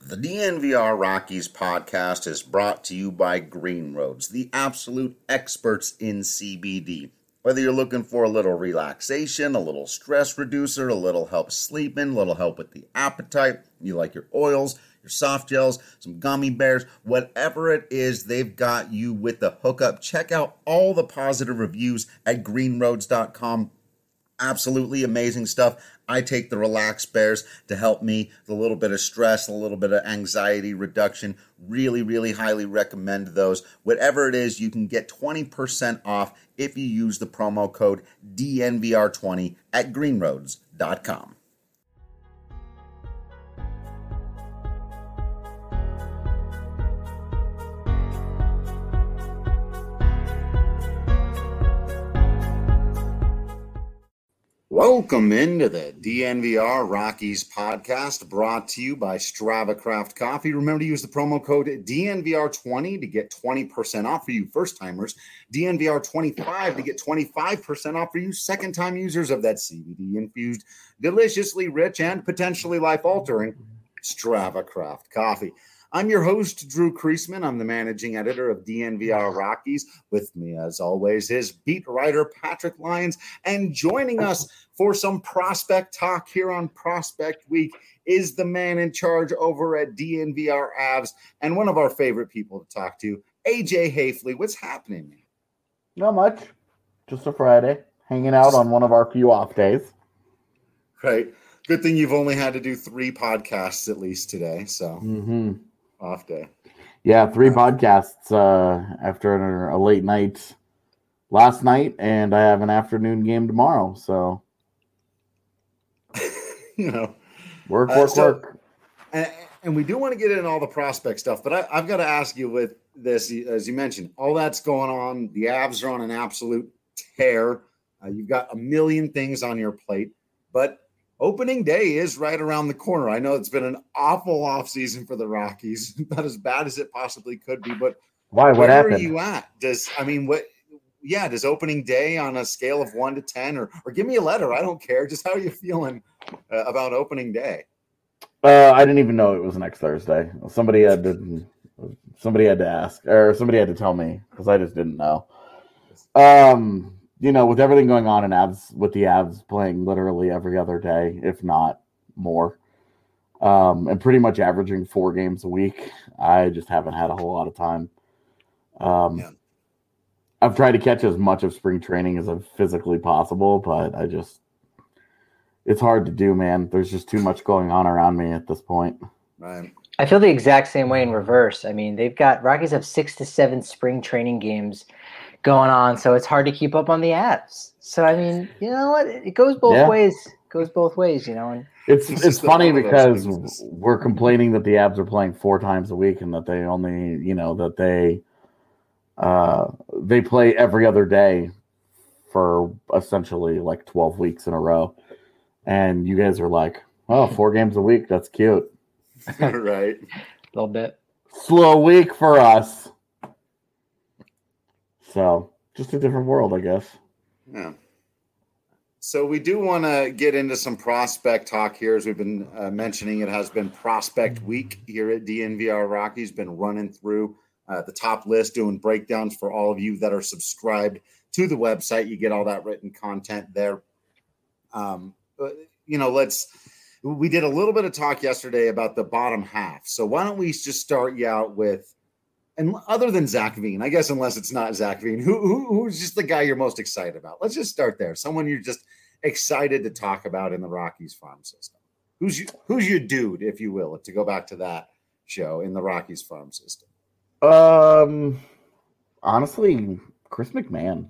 The DNVR Rockies podcast is brought to you by Green Roads, the absolute experts in CBD. Whether you're looking for a little relaxation, a little stress reducer, a little help sleeping, a little help with the appetite, you like your oils, your soft gels, some gummy bears, whatever it is, they've got you with the hookup. Check out all the positive reviews at greenroads.com. Absolutely amazing stuff. I take the Relax Bears to help me with a little bit of stress, a little bit of anxiety reduction. Really highly recommend those. Whatever it is, you can get 20% off if you use the promo code DNVR20 at greenroads.com. Welcome into the DNVR Rockies podcast, brought to you by Strava Craft Coffee. Remember to use the promo code DNVR20 to get 20% off for you first-timers, DNVR25 to get 25% off for you second-time users of that CBD-infused, deliciously rich, and potentially life-altering Strava Craft Coffee. I'm your host, Drew Kreisman. I'm the managing editor of DNVR Rockies. With me, as always, is beat writer Patrick Lyons. And joining us for some prospect talk here on Prospect Week is the man in charge over at DNVR Avs and one of our favorite people to talk to, AJ Haefele. What's happening, man? Not much. Just a Friday. Hanging out on one of our few off days. Right. Good thing you've only had to do 3 podcasts at least today, so... Off day. Yeah, 3 podcasts after a late night last night, and I have an afternoon game tomorrow. So, work. And we do want to get into all the prospect stuff, but I've got to ask you with this, as you mentioned, all that's going on. The Avs are on an absolute tear. You've got a million things on your plate, but opening day is right around the corner. I know it's been an awful offseason for the Rockies, not as bad as it possibly could be, but why? What happened? Where are you at? Does opening day on a scale of 1 to 10 or give me a letter? I don't care. Just how are you feeling about opening day? I didn't even know it was next Thursday. Somebody had to ask, or somebody had to tell me, because I just didn't know. With everything going on in Avs, with the Avs playing literally every other day, if not more, and pretty much averaging 4 games a week, I just haven't had a whole lot of time. I've tried to catch as much of spring training as I've physically possible, but it's hard to do, man. There's just too much going on around me at this point. Right. I feel the exact same way in reverse. I mean, Rockies have 6 to 7 spring training games going on, so it's hard to keep up on the Avs. So I mean, you know what? It goes both ways. It goes both ways, And it's funny because we're complaining that the Avs are playing 4 times a week and that they only, they play every other day for essentially like 12 weeks in a row. And you guys are like, oh, 4 games a week. That's cute. Right. A little bit. Slow week for us. So, just a different world, I guess. Yeah. So we do want to get into some prospect talk here. As we've been mentioning, it has been Prospect Week here at DNVR Rockies. Been running through the top list, doing breakdowns for all of you that are subscribed to the website. You get all that written content there. We did a little bit of talk yesterday about the bottom half. So why don't we just start you out with, and other than Zach Veen, I guess, unless it's not Zach Veen, who's just the guy you're most excited about? Let's just start there. Someone you're just excited to talk about in the Rockies farm system. Who's your dude, if you will, to go back to that show in the Rockies farm system? Honestly, Chris McMahon.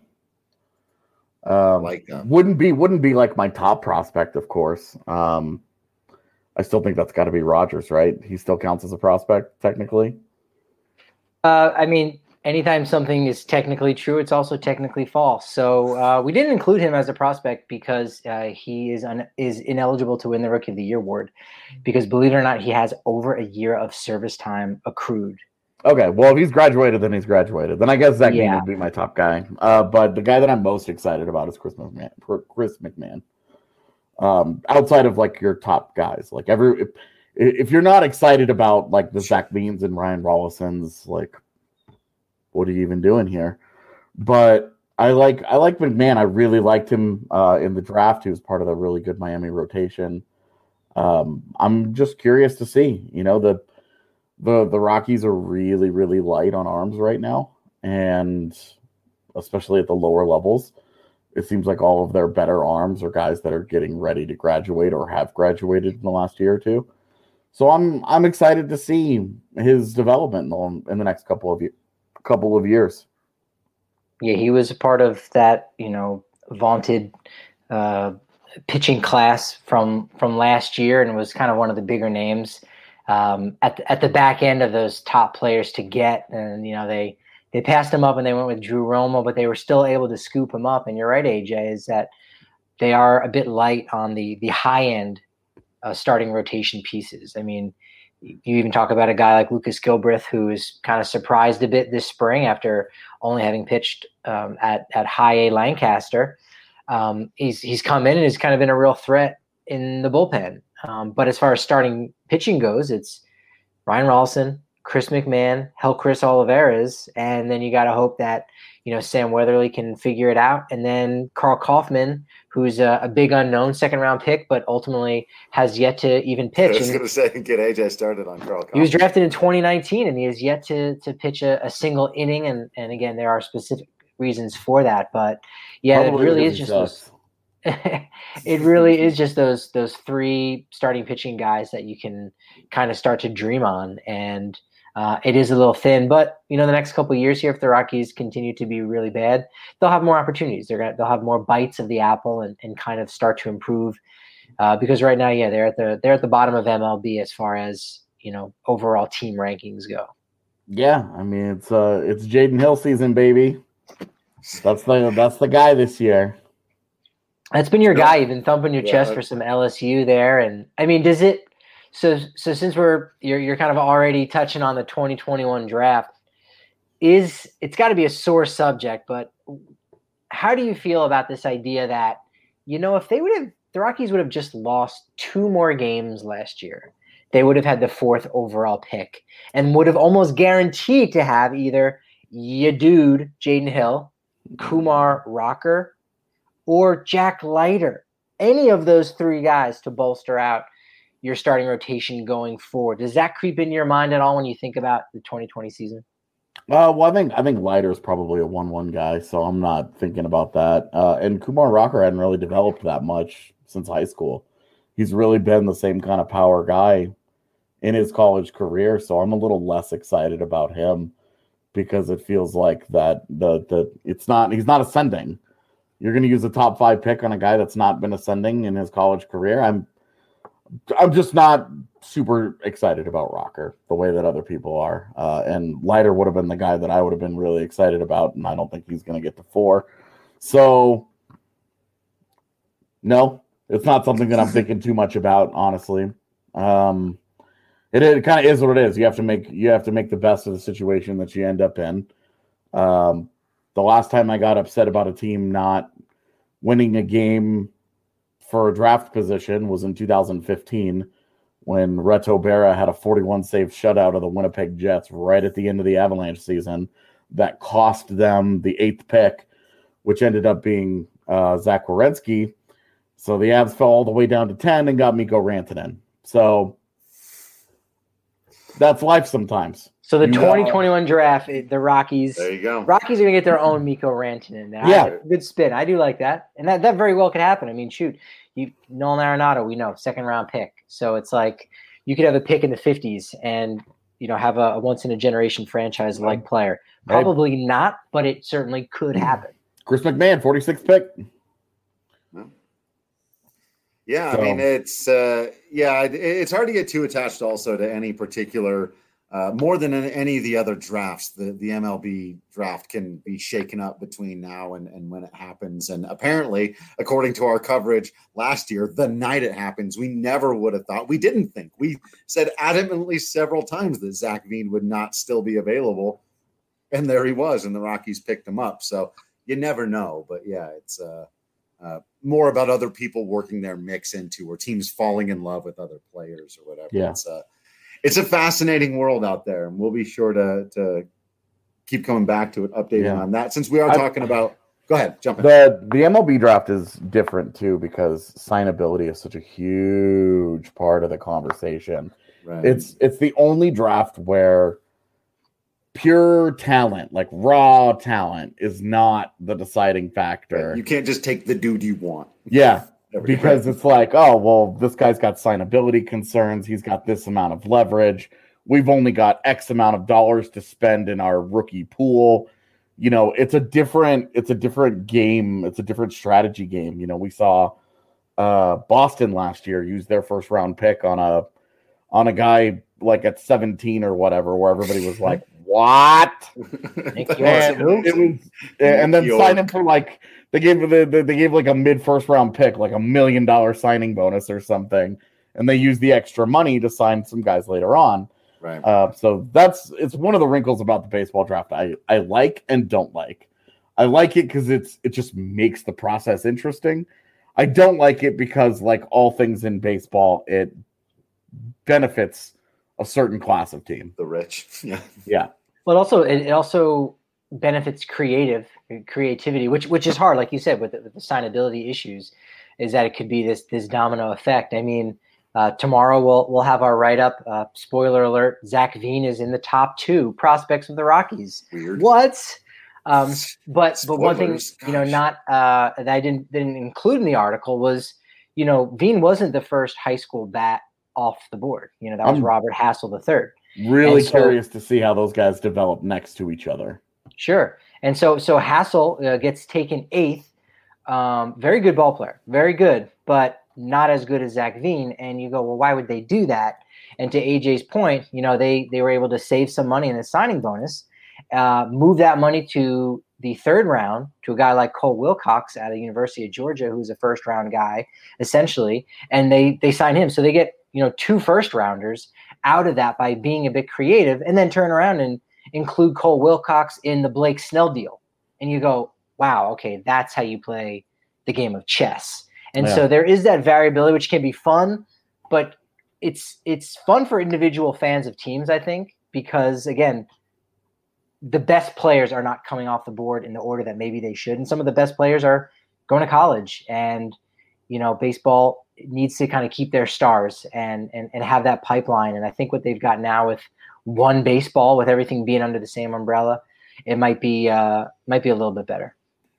Like wouldn't be like my top prospect, of course. I still think that's got to be Rogers, right? He still counts as a prospect technically. I mean, anytime something is technically true, it's also technically false. So we didn't include him as a prospect because he is ineligible to win the Rookie of the Year award because, believe it or not, he has over a year of service time accrued. Okay, well, if he's graduated, then he's graduated. Then I guess Zach Veen would be my top guy. But the guy that I'm most excited about is Chris McMahon. Outside of like your top guys, like if you're not excited about like the Zach Beans and Ryan Rollisons, like, what are you even doing here? But I like McMahon. I really liked him in the draft. He was part of the really good Miami rotation. I'm just curious to see. The Rockies are really, really light on arms right now, and especially at the lower levels. It seems like all of their better arms are guys that are getting ready to graduate or have graduated in the last year or two. So I'm excited to see his development in the next couple of years. Yeah, he was a part of that, vaunted pitching class from last year, and was kind of one of the bigger names at the back end of those top players to get. And they passed him up and they went with Drew Romo, but they were still able to scoop him up. And you're right, AJ, is that they are a bit light on the high end starting rotation pieces. I mean, you even talk about a guy like Lucas Gilbreth, who is kind of surprised a bit this spring after only having pitched at high A Lancaster. He's come in and has kind of been a real threat in the bullpen. But as far as starting pitching goes, it's Ryan Rollison, Chris McMahon, Chris Olivares, and then you got to hope that Sam Weatherly can figure it out, and then Carl Kaufman, who's a big unknown second-round pick, but ultimately has yet to even pitch. I was going to say, get AJ started on Carl Kaufman. He was drafted in 2019, and he has yet to pitch a single inning, and again, there are specific reasons for that, but yeah, probably it really is just those. It really is just those three starting pitching guys that you can kind of start to dream on, and it is a little thin, but the next couple of years here, if the Rockies continue to be really bad, they'll have more opportunities. They'll have more bites of the apple and kind of start to improve. Because right now, yeah, they're at the bottom of MLB as far as overall team rankings go. Yeah, I mean it's Jaden Hill season, baby. That's the guy this year. That's been your guy. You've been thumping your chest for some LSU there, and I mean, does it? So since you're kind of already touching on the 2021 draft, it's got to be a sore subject, but how do you feel about this idea that, if the Rockies would have just lost 2 more games last year, they would have had the 4th overall pick and would have almost guaranteed to have either Jaden Hill, Kumar Rocker, or Jack Leiter, any of those 3 guys to bolster out your starting rotation going forward. Does that creep into your mind at all when you think about the 2020 season? Well, I think Leiter is probably a 1-1 guy, so I'm not thinking about that. And Kumar Rocker hadn't really developed that much since high school. He's really been the same kind of power guy in his college career, so I'm a little less excited about him because it feels like that he's not ascending. You're going to use a top 5 pick on a guy that's not been ascending in his college career. I'm just not super excited about Rocker the way that other people are. And Leiter would have been the guy that I would have been really excited about, and I don't think he's going to get to 4. So, no, it's not something that I'm thinking too much about, honestly. It kind of is what it is. You have to make the best of the situation that you end up in. The last time I got upset about a team not winning a game for a draft position was in 2015 when Reto Berra had a 41 save shutout of the Winnipeg Jets right at the end of the Avalanche season that cost them the 8th pick, which ended up being Zach Werenski. So the Avs fell all the way down to 10 and got Mikko Rantanen. So that's life sometimes. So the 2021 draft, the Rockies. There you go. Rockies are going to get their own Mikko Rantanen now. Yeah. Good spin. I do like that. And that very well could happen. I mean, shoot, Nolan Arenado, we know, 2nd-round pick. So it's like you could have a pick in the 50s and, have a once-in-a-generation franchise-like player. Probably not, but it certainly could happen. Chris McMahon, 46th pick. Yeah, so. I mean, it's hard to get too attached also to any particular more than in any of the other drafts. The MLB draft can be shaken up between now and when it happens. And apparently, according to our coverage last year, the night it happens, we never would have thought. We didn't think. We said adamantly several times that Zach Veen would not still be available. And there he was, and the Rockies picked him up. So you never know. But yeah, it's more about other people working their mix into, or teams falling in love with other players or whatever. Yeah. It's a fascinating world out there, and we'll be sure to keep coming back to it, updating on that. Since we are talking about, go ahead, jump in. The MLB draft is different too, because signability is such a huge part of the conversation. Right. It's the only draft where pure talent, like raw talent, is not the deciding factor. Right. You can't just take the dude you want. Yeah. Because it's like, oh, well, this guy's got signability concerns. He's got this amount of leverage. We've only got X amount of dollars to spend in our rookie pool. You know, it's a different game. It's a different strategy game. You know, we saw Boston last year use their first round pick on a guy like at 17 or whatever, where everybody was like, what? And then sign him for like, they gave like a mid first round pick, like $1 million signing bonus or something, and they used the extra money to sign some guys later on. Right. So it's one of the wrinkles about the baseball draft I like and don't like. I like it because it just makes the process interesting. I don't like it because, like all things in baseball, it benefits a certain class of team, the rich. Yeah. But also, it also benefits creativity, which is hard, like you said, with the signability issues, is that it could be this domino effect. I mean, tomorrow we'll have our write-up. Spoiler alert: Zach Veen is in the top 2 prospects of the Rockies. Weird. What? But one thing, not that I didn't include in the article was, Veen wasn't the first high school bat off the board. That was Robert Hassel III. Really curious to see how those guys develop next to each other. Sure. And so Hassel gets taken 8th. Very good ball player, very good, but not as good as Zach Veen. And you go, well, why would they do that? And to AJ's point, they were able to save some money in the signing bonus, move that money to the 3rd round to a guy like Cole Wilcox out of the University of Georgia, who's a first-round guy, essentially, and they sign him. So they get 2 first-rounders out of that by being a bit creative, and then turn around and include Cole Wilcox in the Blake Snell deal. And you go, wow, okay, that's how you play the game of chess. And so there is that variability, which can be fun, but it's fun for individual fans of teams, I think, because, again, the best players are not coming off the board in the order that maybe they should. And some of the best players are going to college. And, baseball needs to kind of keep their stars and have that pipeline. And I think what they've got now with one baseball, with everything being under the same umbrella, it might be a little bit better.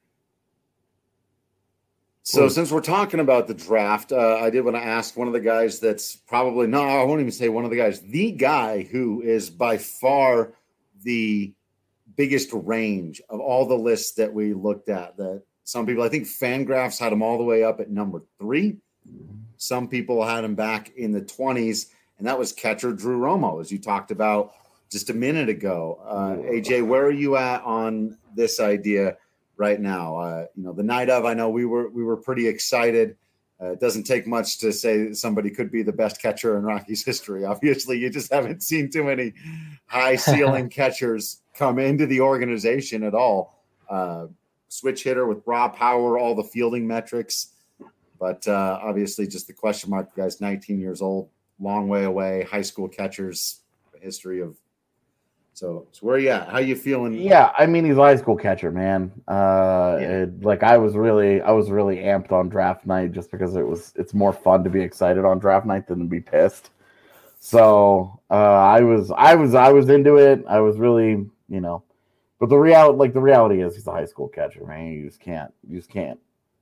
So since we're talking about the draft, I did want to ask one of the guys that's probably, no, I won't even say one of the guys, the guy who is by far the biggest range of all the lists that we looked at. That some people, I think Fangraphs had him all the way up at number 3. Some people had him back in the 20s, and that was catcher Drew Romo, as you talked about just a minute ago. AJ, where are you at on this idea right now? The night of, I know we were pretty excited. It doesn't take much to say that somebody could be the best catcher in Rockies history. Obviously, you just haven't seen too many high ceiling catchers come into the organization at all. Switch hitter with raw power, all the fielding metrics. But obviously just the question mark, the guy's 19 years old, long way away, high school catchers, history of. So where are you at? How you feeling? Yeah, I mean, he's a high school catcher, man. I was really amped on draft night just because it's more fun to be excited on draft night than to be pissed. So I was into it. I was really, but the reality is he's a high school catcher, man. You just can't.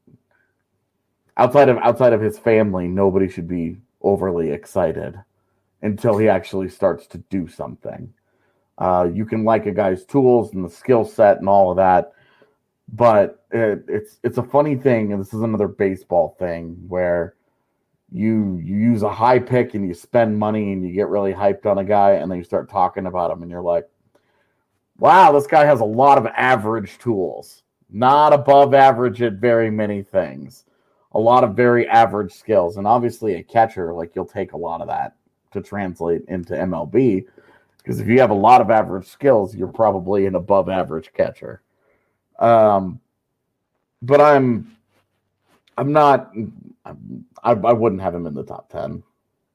Outside of his family, nobody should be overly excited until he actually starts to do something. You can like a guy's tools and the skill set and all of that, but it's a funny thing, and this is another baseball thing where you use a high pick and you spend money and you get really hyped on a guy, and then you start talking about him and you're like, wow, this guy has a lot of average tools, not above average at very many things, a lot of very average skills. And obviously a catcher, like, you'll take a lot of that to translate into MLB, because if you have a lot of average skills, you're probably an above average catcher. But I'm I'm not. I wouldn't have him in the top 10.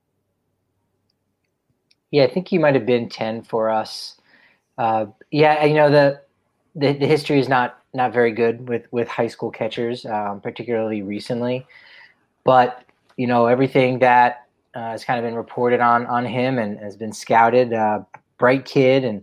Yeah, I think he might have been 10 for us. Yeah, the history is not very good with high school catchers, particularly recently. But everything that has kind of been reported on him and has been scouted, bright kid, and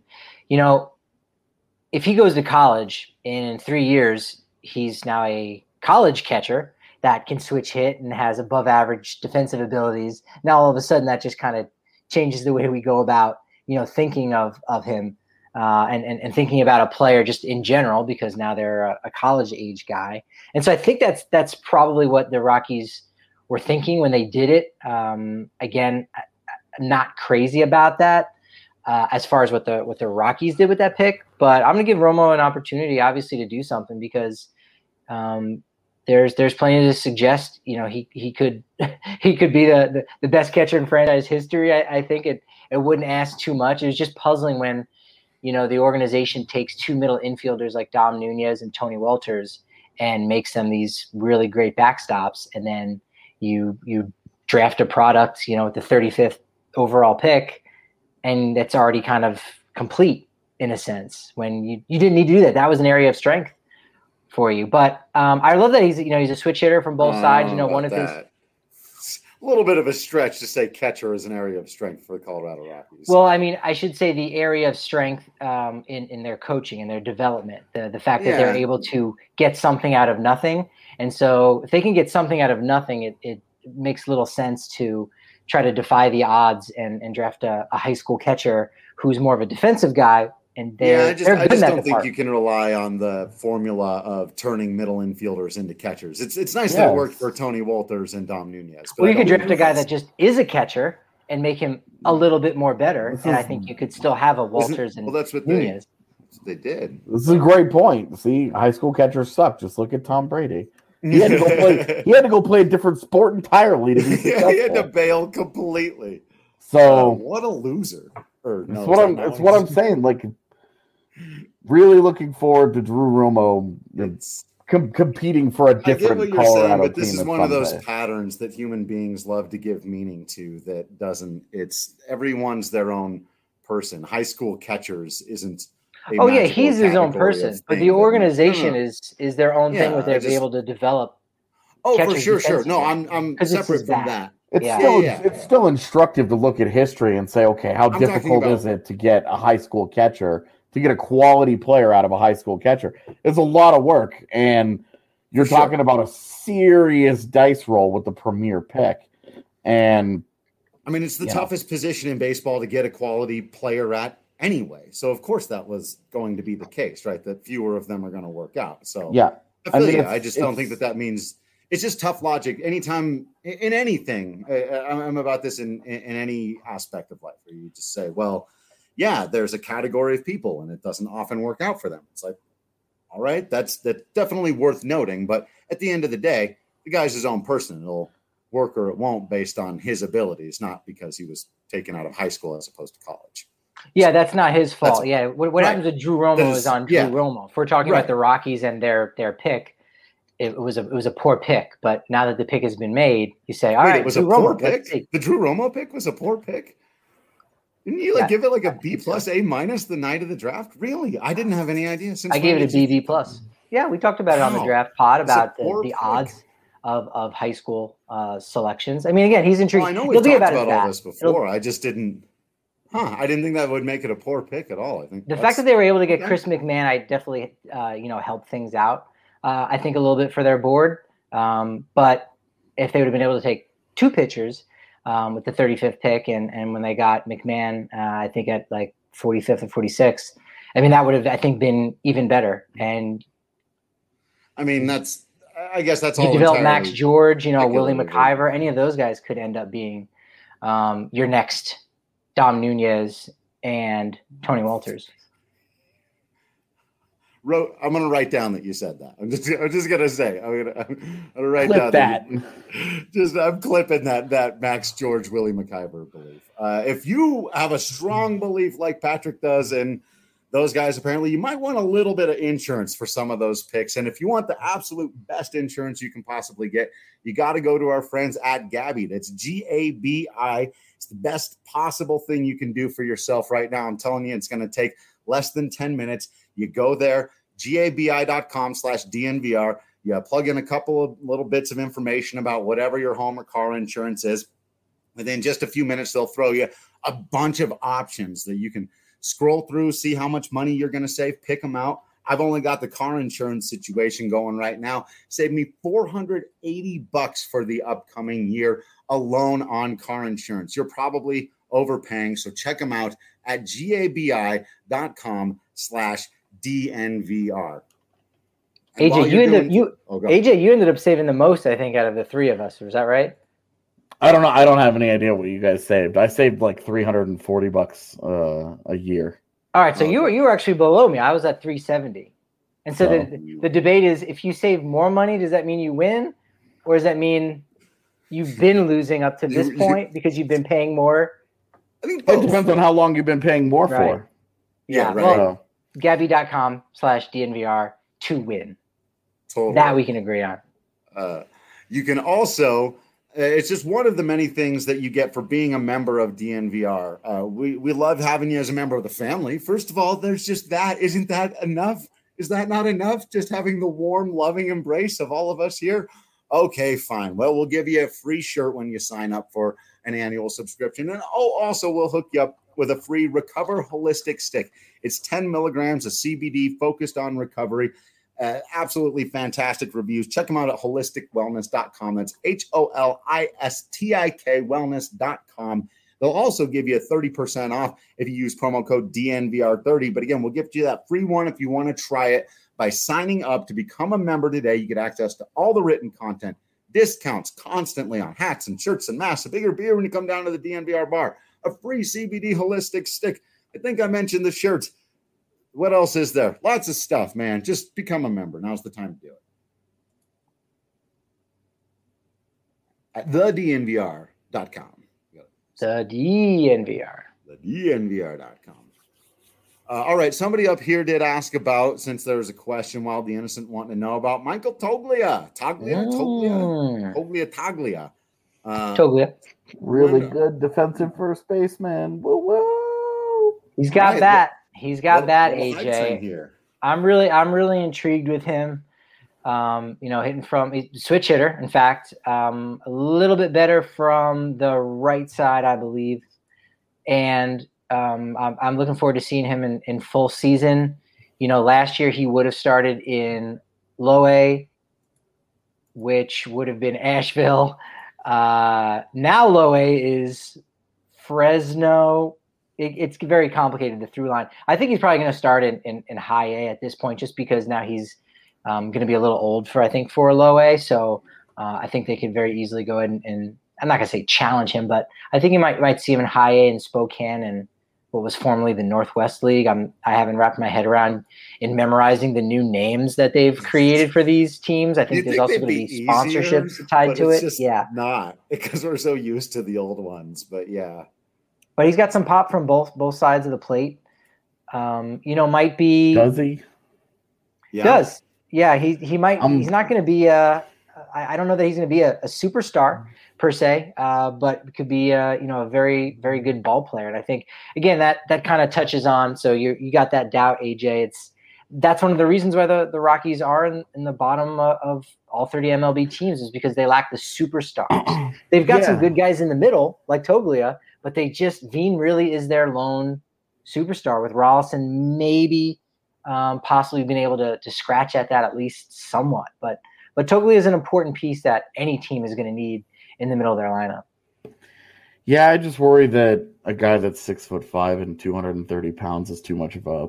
if he goes to college in 3 years, he's now a college catcher that can switch hit and has above average defensive abilities. Now all of a sudden that just kind of changes the way we go about thinking of him. And thinking about a player just in general, because now they're a college age guy. And so I think that's probably what the Rockies were thinking when they did it. Again, not crazy about that as far as what the Rockies did with that pick, but I'm going to give Romo an opportunity, obviously, to do something, because there's plenty to suggest. He could be the best catcher in franchise history. I think it wouldn't ask too much. It was just puzzling when the organization takes two middle infielders like Dom Nunez and Tony Walters and makes them these really great backstops. And then you draft a product, with the 35th overall pick, and it's already kind of complete in a sense when you didn't need to do that. That was an area of strength for you. But I love that he's a switch hitter from both sides. One of his. A little bit of a stretch to say catcher is an area of strength for the Colorado Rockies. Well, I mean, I should say the area of strength in their coaching and their development, the fact that they're able to get something out of nothing. And so if they can get something out of nothing, it makes little sense to try to defy the odds and draft a high school catcher who's more of a defensive guy. And I just don't think you can rely on the formula of turning middle infielders into catchers. It's nice that it worked for Tony Walters and Dom Nunez. Well, you can draft a guy that just is a catcher and make him a little bit more better, and I think you could still have a Walters and that's what Nunez. They did. This is a great point. See, high school catchers suck. Just look at Tom Brady. He had to go play a different sport entirely to be successful. He had to bail completely. So what a loser. It's what I'm saying. Like, really looking forward to Drew Romo competing for a different Colorado saying, but team. This is one of those patterns that human beings love to give meaning to that doesn't. It's everyone's their own person. High school catchers isn't. He's his own person, but the organization is their own thing with be able to develop. Oh, for sure. No, I'm separate from that. It's still instructive to look at history and say, okay, how difficult is it to get a high school catcher, to get a quality player out of a high school catcher? It's a lot of work, and you're talking about a serious dice roll with the premier pick. And I mean, it's the toughest position in baseball to get a quality player at anyway. So of course that was going to be the case, right? That fewer of them are going to work out. So I just don't think that means. It's just tough logic. Anytime in anything, I'm about this in any aspect of life, where you just say, well, yeah, there's a category of people and it doesn't often work out for them. It's like, all right, that's definitely worth noting. But at the end of the day, the guy's his own person. It'll work or it won't based on his abilities, not because he was taken out of high school as opposed to college. Yeah, that's not his fault. What happens with Drew Romo is on Drew Romo. If we're talking about the Rockies and their pick, it was a poor pick, but now that the pick has been made, you say, all right, it was a poor pick. The Drew Romo pick was a poor pick. Didn't you give it like a B plus, A minus the night of the draft? Really? I didn't have any idea. I gave it a B plus. Yeah, we talked about it on the draft pod about the odds of high school selections. I mean, again, he's intrigued. Well, I know we've talked about all this before. I just didn't. I didn't think that would make it a poor pick at all. I think the fact that they were able to get Chris McMahon, I definitely helped things out. I think a little bit for their board, but if they would have been able to take two pitchers with the 35th pick, and when they got McMahon, I think at like 45th or 46th, I mean that would have, I think, been even better. And I mean I guess that's all. You develop Max George, Willie McIver, any of those guys could end up being your next Dom Nunez and Tony Walters. I'm going to write down that you said that. I'm just going to say, I'm going to write Clip down that. I'm clipping that Max George, Willie McIver belief. If you have a strong belief like Patrick does in those guys, apparently you might want a little bit of insurance for some of those picks. And if you want the absolute best insurance you can possibly get, you got to go to our friends at Gabi. That's Gabi. It's the best possible thing you can do for yourself right now. I'm telling you, it's going to take less than 10 minutes. You go there, gabi.com/DNVR. You plug in a couple of little bits of information about whatever your home or car insurance is. Within just a few minutes, they'll throw you a bunch of options that you can scroll through, see how much money you're going to save, pick them out. I've only got the car insurance situation going right now. Saved me $480 for the upcoming year alone on car insurance. You're probably overpaying, so check them out at gabi.com/DNVR. AJ, you ended up saving the most, I think, out of the three of us. Was that right? I don't know. I don't have any idea what you guys saved. I saved like $340 a year. All right, so you were actually below me. I was at $370. And so the debate is, if you save more money, does that mean you win? Or does that mean you've been losing up to this point because you've been paying more? I think it depends on how long you've been paying more for. Yeah, right. Well, Gabi.com/DNVR to win. Totally. That we can agree on. You can also... it's just one of the many things that you get for being a member of DNVR. We love having you as a member of the family. First of all, there's just that. Isn't that enough? Is that not enough? Just having the warm, loving embrace of all of us here? Okay, fine. Well, we'll give you a free shirt when you sign up for an annual subscription. And also we'll hook you up with a free Recover Holistic Stick. It's 10 milligrams of CBD focused on recovery. Absolutely fantastic reviews. Check them out at holisticwellness.com. That's HOLISTIK wellness.com. They'll also give you 30% off if you use promo code DNVR30. But again, we'll give you that free one if you want to try it by signing up to become a member today. You get access to all the written content, discounts constantly on hats and shirts and masks, a bigger beer when you come down to the DNVR bar, a free CBD holistic stick. I think I mentioned the shirts. What else is there? Lots of stuff, man. Just become a member. Now's the time to do it. At thednvr.com. thednvr.com. All right. Somebody up here did ask about, since there was a question while the innocent wanting to know about Michael Toglia. Toglia. Really good defensive first baseman. Woo woo. He's got that. He's got that, AJ. I'm really intrigued with him. Hitting from switch hitter. In fact, a little bit better from the right side, I believe. And I'm looking forward to seeing him in full season. Last year he would have started in low A, which would have been Asheville. Now low A is Fresno. It's very complicated, the through line. I think he's probably going to start in high A at this point, just because now he's going to be a little old for low A. So I think they could very easily go ahead and I'm not going to say challenge him, but I think you might see him in high A in Spokane and what was formerly the Northwest League. I haven't wrapped my head around in memorizing the new names that they've created for these teams. I think there's also going to be sponsorships tied to it. Yeah, not because we're so used to the old ones, but yeah. But he's got some pop from both sides of the plate. Might be. Does he? Yeah. Does. Yeah, he might. He's not going to be I don't know that he's going to be a superstar per se, but could be a very, very good ball player. And I think again that kind of touches on. So you got that doubt, AJ. That's one of the reasons why the Rockies are in the bottom of all 30 MLB teams, is because they lack the superstars. They've got some good guys in the middle like Toglia. But Veen really is their lone superstar, with Rollison maybe possibly being able to scratch at that at least somewhat. But Toglia is an important piece that any team is going to need in the middle of their lineup. Yeah, I just worry that a guy that's 6'5" and 230 pounds is too much of a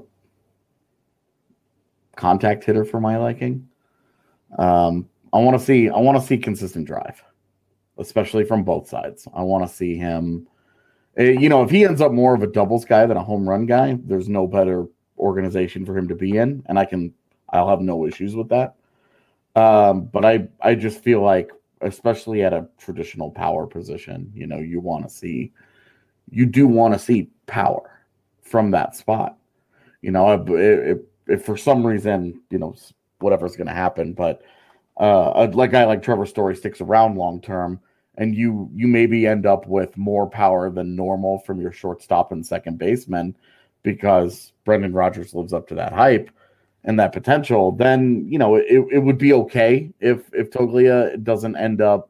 contact hitter for my liking. I want to see consistent drive, especially from both sides. I want to see him. If he ends up more of a doubles guy than a home run guy, there's no better organization for him to be in, and I'll have no issues with that. But I just feel like, especially at a traditional power position, you do want to see power from that spot. If for some reason, whatever's going to happen, but a guy like Trevor Story sticks around long term, and you maybe end up with more power than normal from your shortstop and second baseman because Brendan Rodgers lives up to that hype and that potential, then it would be okay if Toglia doesn't end up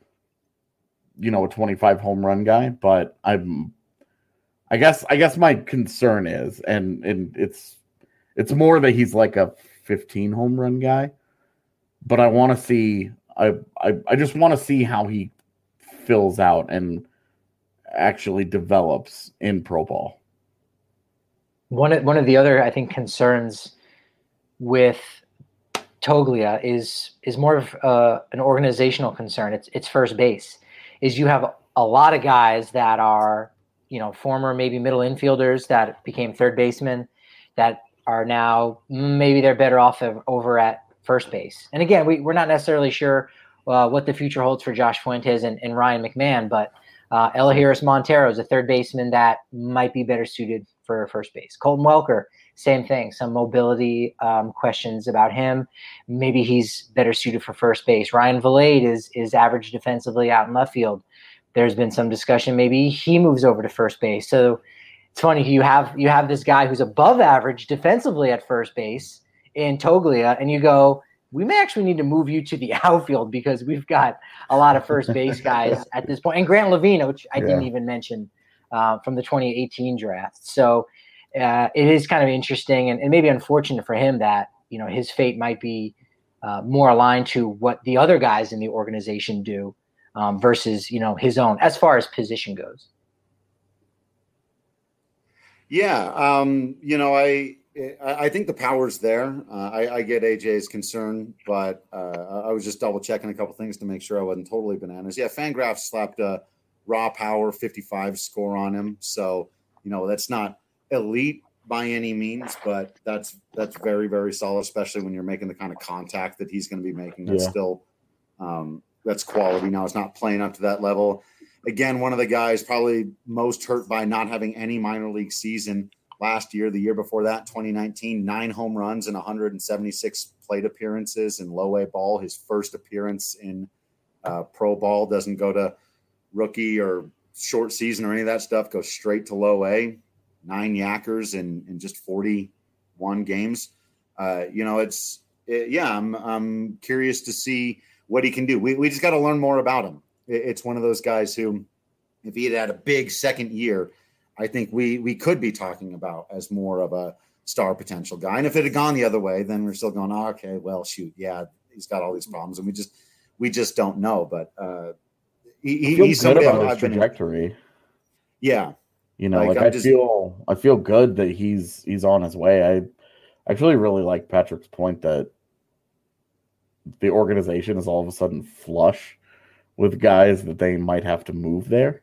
a 25 home run guy. But I guess my concern is, and it's more that he's like a 15 home run guy, but I want to see I just want to see how he fills out and actually develops in pro ball. One of the other, I think, concerns with Toglia is more of an organizational concern. It's first base. Is you have a lot of guys that are former maybe middle infielders that became third basemen that are now maybe they're better off over at first base. And again, we're not necessarily sure what the future holds for Josh Fuentes and Ryan McMahon, but Elahiris Montero is a third baseman that might be better suited for first base. Colton Welker, same thing. Some mobility questions about him. Maybe he's better suited for first base. Ryan Vilade is average defensively out in left field. There's been some discussion maybe he moves over to first base. So it's funny, you have this guy who's above average defensively at first base in Toglia, and you go, we may actually need to move you to the outfield because we've got a lot of first base guys at this point. And Grant Lavina, which I didn't even mention from the 2018 draft. So it is kind of interesting and maybe unfortunate for him that, his fate might be more aligned to what the other guys in the organization do versus, his own as far as position goes. Yeah. I think the power's there. I get AJ's concern, but I was just double checking a couple things to make sure I wasn't totally bananas. Yeah, Fangraphs slapped a raw power 55 score on him. So, that's not elite by any means, but that's very, very solid, especially when you're making the kind of contact that he's going to be making. That's still that's quality. Now it's not playing up to that level. Again, one of the guys probably most hurt by not having any minor league season last year. The year before that, 2019, 9 home runs and 176 plate appearances in low A ball. His first appearance in pro ball, doesn't go to rookie or short season or any of that stuff, goes straight to low A. 9 yackers in just 41 games. I'm curious to see what he can do. We just got to learn more about him. It's one of those guys who, if he had a big second year, I think we could be talking about as more of a star potential guy. And if it had gone the other way, then we're still going, okay, well, shoot, yeah, he's got all these problems, and we just don't know. But he's somebody about his trajectory. Yeah, I feel good that he's on his way. I actually really like Patrick's point that the organization is all of a sudden flush with guys that they might have to move there.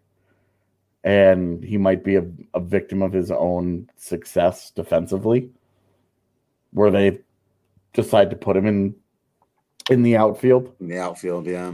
And he might be a victim of his own success defensively, where they decide to put him in the outfield. In the outfield, yeah.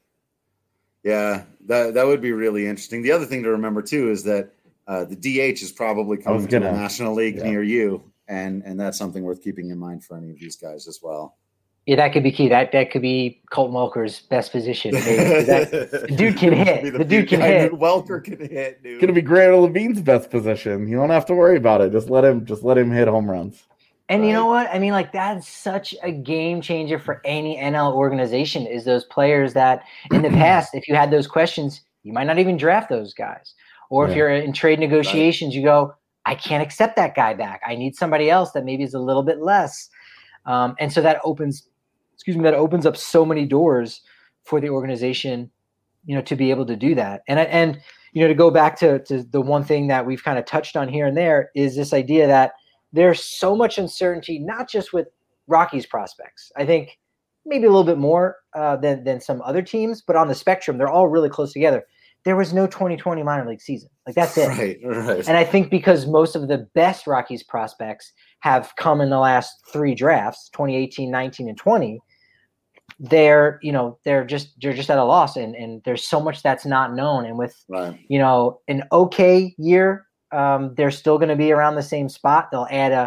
Yeah, that would be really interesting. The other thing to remember, too, is that the DH is probably coming to the National League near you, and that's something worth keeping in mind for any of these guys as well. Yeah, that could be key. That could be Colton Welker's best position. The dude can hit. The dude can hit. Welker can hit, dude. It's gonna be Grant Levine's best position. You don't have to worry about it. Just let him hit home runs. And you know what? I mean, like, that's such a game changer for any NL organization, is those players that in the past, if you had those questions, you might not even draft those guys. Or if you're in trade negotiations, you go, I can't accept that guy back. I need somebody else that maybe is a little bit less. And so that opens up so many doors for the organization, to be able to do that. And to go back to the one thing that we've kind of touched on here and there is this idea that there's so much uncertainty, not just with Rockies prospects. I think maybe a little bit more than some other teams, but on the spectrum, they're all really close together. There was no 2020 minor league season. Like, that's it. Right. And I think because most of the best Rockies prospects have come in the last 3 drafts, 2018, 19, and 20, they're just at a loss, and there's so much that's not known. And with an okay year, they're still going to be around the same spot. They'll add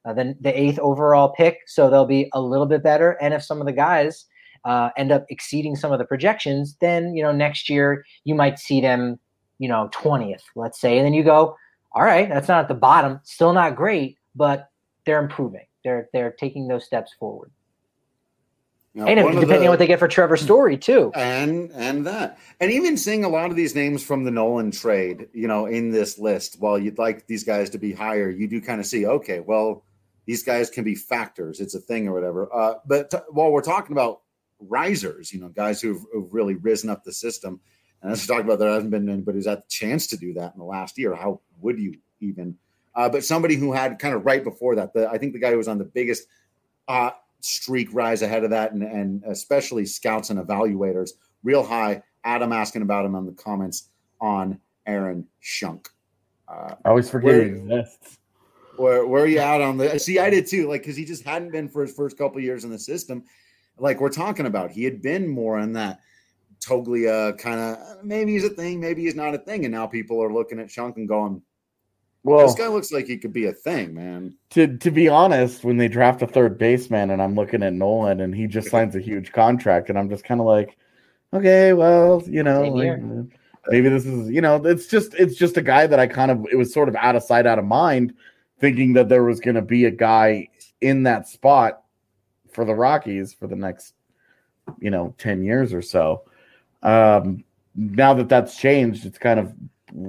the 8th overall pick, so they'll be a little bit better. And if some of the guys end up exceeding some of the projections, then next year you might see them 20th, let's say, and then you go, all right, that's not at the bottom, still not great, but they're improving. They're taking those steps forward. Now, and depending on what they get for Trevor Story too, and even seeing a lot of these names from the Nolan trade, in this list, while you'd like these guys to be higher, you do kind of see, okay, well, these guys can be factors. It's a thing or whatever. But while we're talking about risers, guys who've really risen up the system, and as we talked about, there hasn't been anybody who's had the chance to do that in the last year. How would you even? But somebody who had kind of right before that, I think the guy who was on the biggest streak rise ahead of that, and especially scouts and evaluators, real high. Adam asking about him on the comments on Aaron Schunk. I always forget he exists. Where are you at on the? See, I did too. Because he just hadn't been for his first couple of years in the system. Like we're talking about, he had been more on that Toglia kind of. Maybe he's a thing, maybe he's not a thing, and now people are looking at Schunk and going, well, this guy looks like he could be a thing, man. To be honest, when they draft a third baseman and I'm looking at Nolan and he just signs a huge contract and I'm just kind of like, okay, well, maybe this is, it's just a guy that it was sort of out of sight, out of mind, thinking that there was going to be a guy in that spot for the Rockies for the next, 10 years or so. Now that that's changed, it's kind of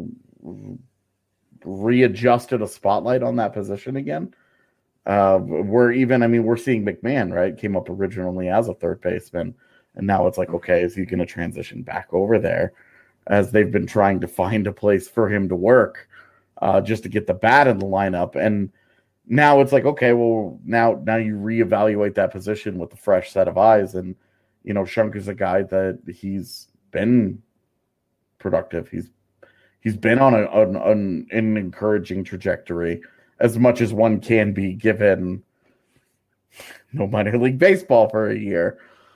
readjusted a spotlight on that position again. We're seeing McMahon, right? Came up originally as a third baseman, and now it's like, okay, is he going to transition back over there? As they've been trying to find a place for him to work, just to get the bat in the lineup, and now it's like, okay, well, now you reevaluate that position with a fresh set of eyes, and Schunk is a guy that he's been productive. He's been on an encouraging trajectory, as much as one can be given no minor league baseball for a year.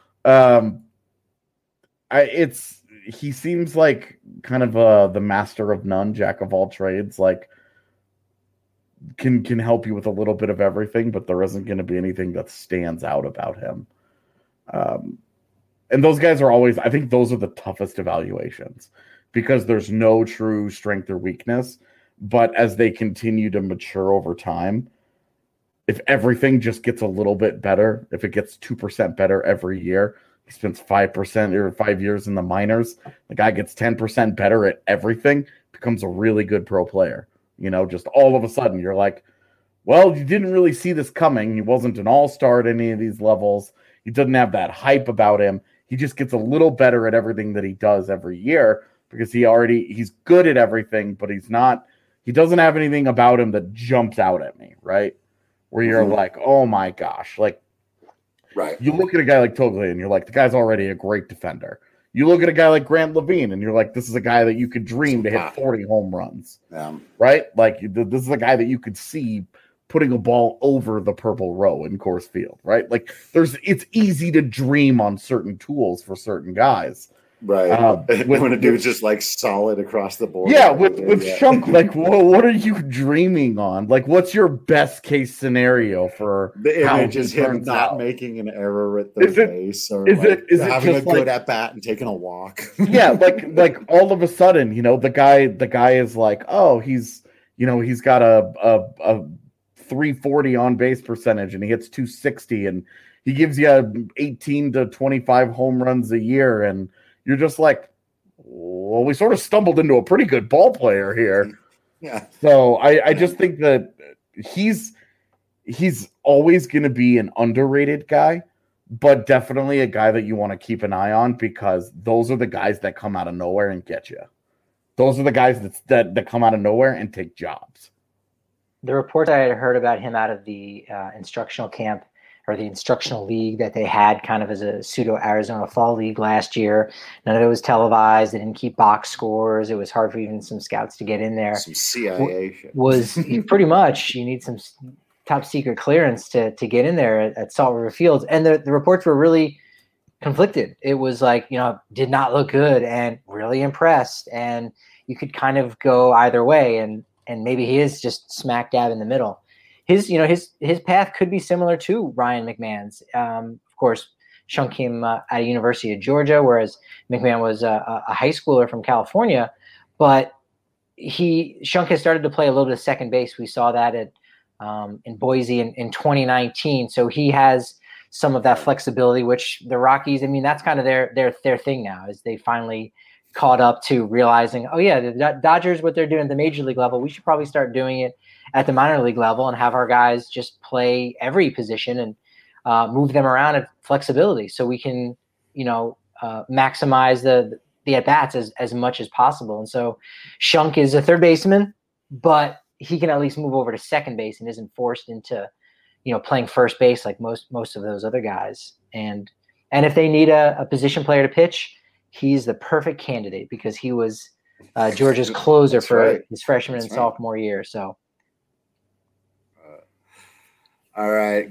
He seems like kind of the master of none, jack of all trades. Like can help you with a little bit of everything, but there isn't going to be anything that stands out about him. And those guys are always, I think those are the toughest evaluations, because there's no true strength or weakness. But as they continue to mature over time, if everything just gets a little bit better, if it gets 2% better every year, he spends 5% or 5 years in the minors, the guy gets 10% better at everything, becomes a really good pro player. Just all of a sudden you're like, well, you didn't really see this coming. He wasn't an all-star at any of these levels. He doesn't have that hype about him. He just gets a little better at everything that he does every year, because he's good at everything, but he doesn't have anything about him that jumps out at me, right? Where you're like, oh my gosh. Like, right. You look at a guy like Toglia and you're like, the guy's already a great defender. You look at a guy like Grant Levine and you're like, this is a guy that you could dream to hit 40 home runs, right? Like, this is a guy that you could see putting a ball over the purple row in Coors Field, right? Like, it's easy to dream on certain tools for certain guys. Right. When a dude's just like solid across the board. Yeah, with Schunk, like, what are you dreaming on? Like, what's your best case scenario for the image is him not making an error at the base, or having a good at bat and taking a walk? Yeah, like all of a sudden, the guy is like, oh, he's got a 340 on base percentage and he hits 260 and he gives you 18 to 25 home runs a year, and you're just like, well, we sort of stumbled into a pretty good ball player here. Yeah. So I just think that he's always going to be an underrated guy, but definitely a guy that you want to keep an eye on, because those are the guys that come out of nowhere and get you. Those are the guys that come out of nowhere and take jobs. The report I had heard about him out of the instructional camp, or the instructional league that they had kind of as a pseudo Arizona fall league last year. None of it was televised. They didn't keep box scores. It was hard for even some scouts to get in there. Some CIA shit. Was pretty much, you need some top secret clearance to get in there at Salt River Fields. And the reports were really conflicted. It was like, did not look good and really impressed. And you could kind of go either way. And maybe he is just smack dab in the middle. his path could be similar to Ryan McMahon's. Of course, Shunk came at a University of Georgia, whereas McMahon was a high schooler from California. But Shunk has started to play a little bit of second base. We saw that in Boise in 2019. So he has some of that flexibility, which the Rockies, I mean, that's kind of their thing now, is they finally caught up to realizing, oh yeah, the Dodgers, what they're doing at the major league level, we should probably start doing it at the minor league level and have our guys just play every position and move them around at flexibility, so we can, maximize the at-bats as much as possible. And so Shunk is a third baseman, but he can at least move over to second base and isn't forced into, playing first base like most of those other guys. And if they need a position player to pitch, he's the perfect candidate because he was Georgia's closer for his freshman and sophomore year. So. All right.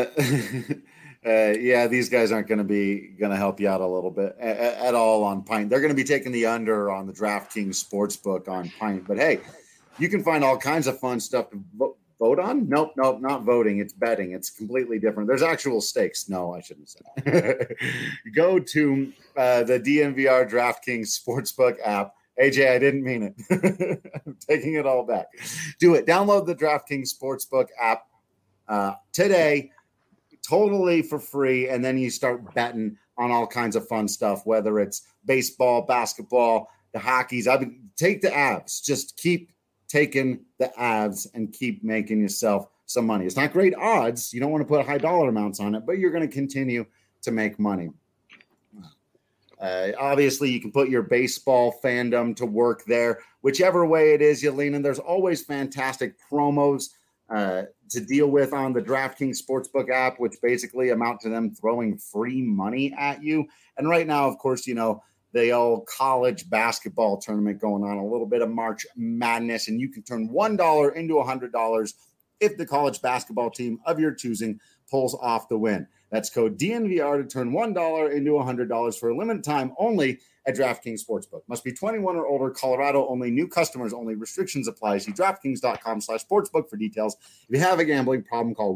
These guys aren't going to help you out a little bit at all on Pint. They're going to be taking the under on the DraftKings Sportsbook on Pint. But hey, you can find all kinds of fun stuff to vote on. Nope, not voting. It's betting. It's completely different. There's actual stakes. No, I shouldn't say. Go to the DNVR DraftKings Sportsbook app. AJ, I didn't mean it. I'm taking it all back. Do it. Download the DraftKings Sportsbook app today, totally for free, and then you start betting on all kinds of fun stuff, whether it's baseball, basketball, the hockeys. Take the abs. Just keep taking the abs and keep making yourself some money. It's not great odds. You don't want to put high dollar amounts on it, but you're going to continue to make money. Obviously, you can put your baseball fandom to work there. Whichever way it is you lean in, there's always fantastic promos to deal with on the DraftKings Sportsbook app, which basically amount to them throwing free money at you. And right now, of course, the old college basketball tournament going on, a little bit of March Madness, and you can turn $1 into $100 if the college basketball team of your choosing pulls off the win. That's code DNVR to turn $1 into $100 for a limited time only at DraftKings Sportsbook. Must be 21 or older, Colorado only, new customers only, restrictions apply. See DraftKings.com/sportsbook for details. If you have a gambling problem, call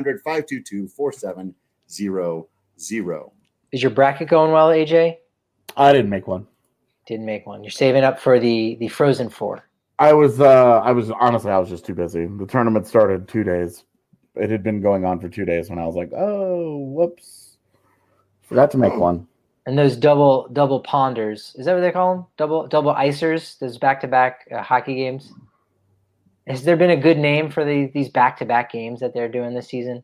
1-800-522-4700. Is your bracket going well, AJ? I didn't make one. Didn't make one. You're saving up for the Frozen Four. I was just too busy. The tournament started 2 days. It had been going on for 2 days when I was like, oh, whoops. Forgot to make one. And those double ponders, is that what they call them? Double icers, those back-to-back hockey games? Has there been a good name for these back-to-back games that they're doing this season?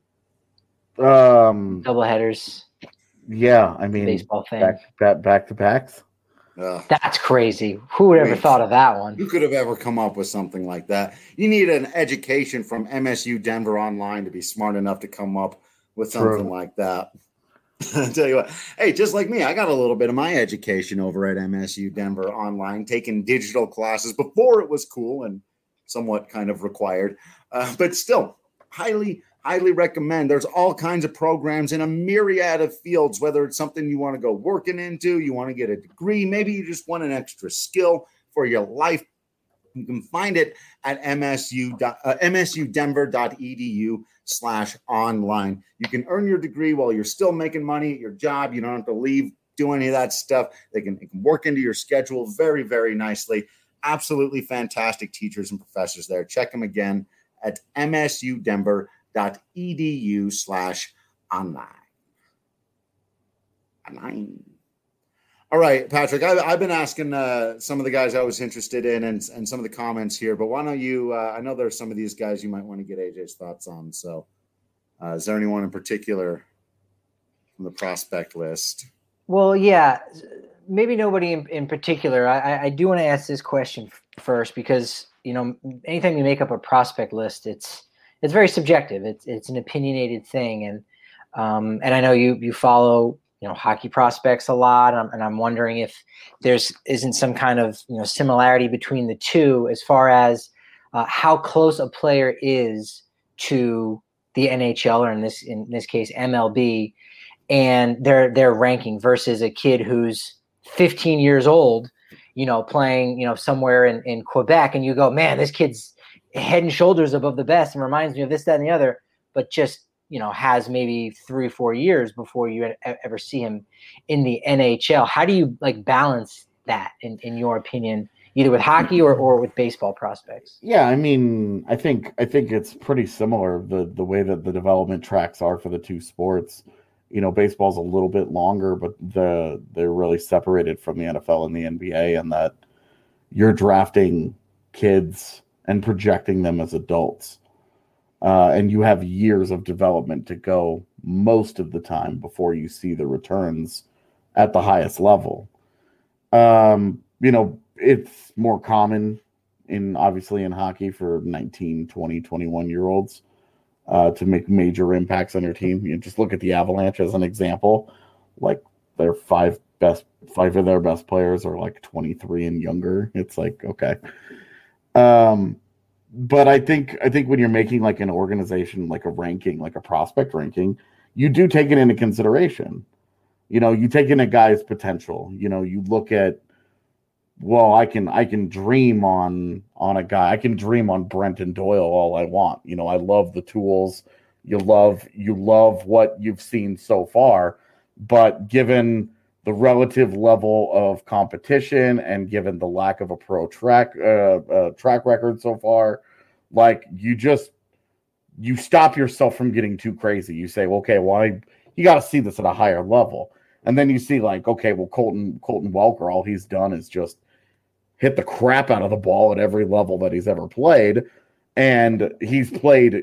Double headers. Yeah, I mean, baseball thing. Back-to-backs. That's crazy. Who would ever thought of that one? Who could have ever come up with something like that? You need an education from MSU Denver Online to be smart enough to come up with something like that. I'll tell you what. Hey, just like me, I got a little bit of my education over at MSU Denver Online, taking digital classes before it was cool and somewhat kind of required. But still, highly recommend. There's all kinds of programs in a myriad of fields, whether it's something you want to go working into, you want to get a degree, maybe you just want an extra skill for your life. You can find it at msudenver.edu/online. You can earn your degree while you're still making money at your job. You don't have to leave, do any of that stuff. It can work into your schedule very, very nicely. Absolutely fantastic teachers and professors there. Check them again at msudenver.edu/online. All right, Patrick, I've been asking some of the guys I was interested in and some of the comments here, but why don't you, I know there's some of these guys you might want to get AJ's thoughts on. So is there anyone in particular from the prospect list? Well, yeah, maybe nobody in particular. I do want to ask this question first because, anytime you make up a prospect list, it's very subjective. It's an opinionated thing. And I know you follow, hockey prospects a lot. And I'm wondering if isn't some kind of, similarity between the two as far as how close a player is to the NHL, or in this case, MLB, and their ranking versus a kid who's 15 years old, playing, somewhere in Quebec, and you go, man, this kid's head and shoulders above the best and reminds me of this, that, and the other, but just, has maybe 3 or 4 years before you ever see him in the NHL. How do you balance that in your opinion, either with hockey or with baseball prospects? Yeah, I mean, I think it's pretty similar, the way that the development tracks are for the two sports. Baseball's a little bit longer, but they're really separated from the NFL and the NBA, and that you're drafting kids and projecting them as adults. And you have years of development to go most of the time before you see the returns at the highest level. It's more common obviously in hockey for 19, 20, 21-year-olds to make major impacts on your team. Just look at the Avalanche as an example. Like, their five of their best players are like 23 and younger. It's like, okay. But I think when you're making like an organization, like a ranking, like a prospect ranking, you do take it into consideration. You take in a guy's potential. You look at, well, I can dream on a guy. I can dream on Brenton Doyle all I want. I love the tools. You love what you've seen so far, but given the relative level of competition and given the lack of a pro track record so far, like, you stop yourself from getting too crazy. You say, okay, well, you got to see this at a higher level. And then you see, like, okay, well, Colton Welker, all he's done is just hit the crap out of the ball at every level that he's ever played. And he's played,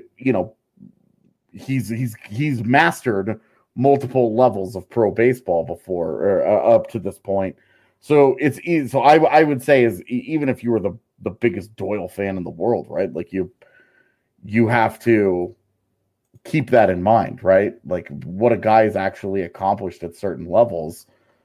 he's mastered multiple levels of pro baseball before, or up to this point. So it's easy. So I would say, is even if you were the biggest Doyle fan in the world, right? Like, you have to keep that in mind, right? Like, what a guy has actually accomplished at certain levels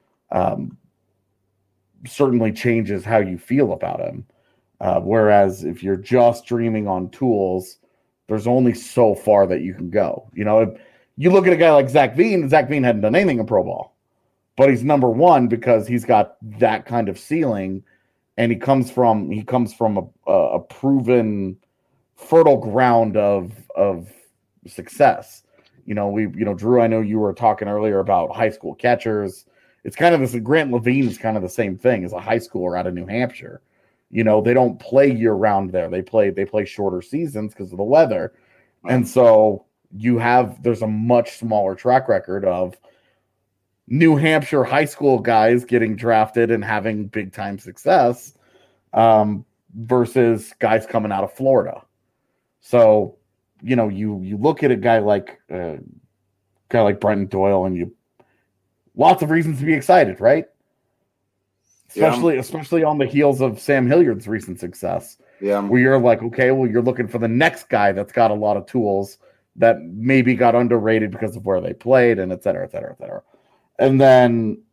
certainly changes how you feel about him. Whereas if you're just dreaming on tools, there's only so far that you can go. You look at a guy like Zach Veen. Zach Veen hadn't done anything in pro ball, but he's number one because he's got that kind of ceiling, and he comes from a proven fertile ground of success. Drew, I know you were talking earlier about high school catchers. It's kind of this. Grant Levine is kind of the same thing as a high schooler out of New Hampshire. They don't play year round there. They play shorter seasons because of the weather, and so there's a much smaller track record of New Hampshire high school guys getting drafted and having big time success versus guys coming out of Florida. So, you look at a guy like Brenton Doyle, and lots of reasons to be excited, right? Especially on the heels of Sam Hilliard's recent success. Yeah. Where you're like, okay, well, you're looking for the next guy that's got a lot of tools that maybe got underrated because of where they played, and et cetera, et cetera, et cetera. And then,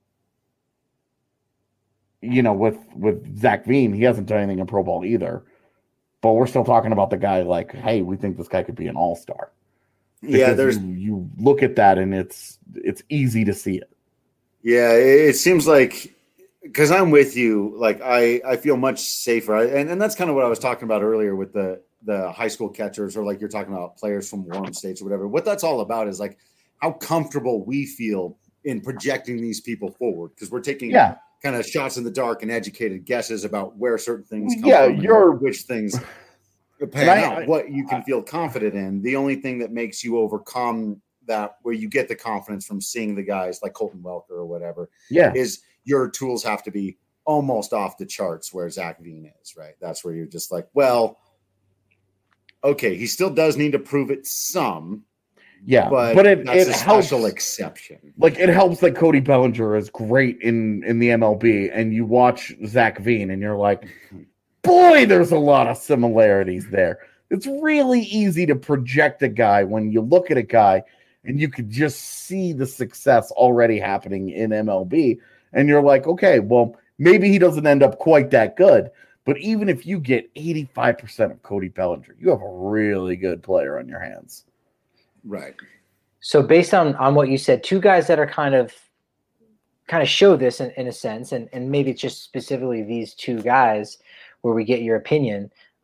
with Zach Veen, he hasn't done anything in pro ball either. But we're still talking about the guy like, hey, we think this guy could be an all-star. Yeah, you look at that and it's easy to see it. Yeah, it seems like, because I'm with you, like I feel much safer, and that's kind of what I was talking about earlier with the high school catchers, or like you're talking about players from warm states or whatever. What that's all about is like how comfortable we feel in projecting these people forward, because we're taking kind of shots in the dark and educated guesses about where certain things come from, which things pan out, what you can feel confident in. The only thing that makes you overcome that, where you get the confidence from seeing the guys like Colton Welker or whatever, is your tools have to be almost off the charts where Zach Veen is, right? That's where you're just like, well, okay, he still does need to prove it some. Yeah, but that's a helps, special exception. Like, it helps that Cody Bellinger is great in the MLB, and you watch Zach Veen, and you're like, boy, there's a lot of similarities there. It's really easy to project a guy when you look at a guy, and you could just see the success already happening in MLB, and you're like, okay, well, maybe he doesn't end up quite that good, but even if you get 85% of Cody Bellinger, you have a really good player on your hands. Right. So based on what you said, two guys that are kind of show this in a sense, and maybe it's just specifically these two guys where we get your opinion.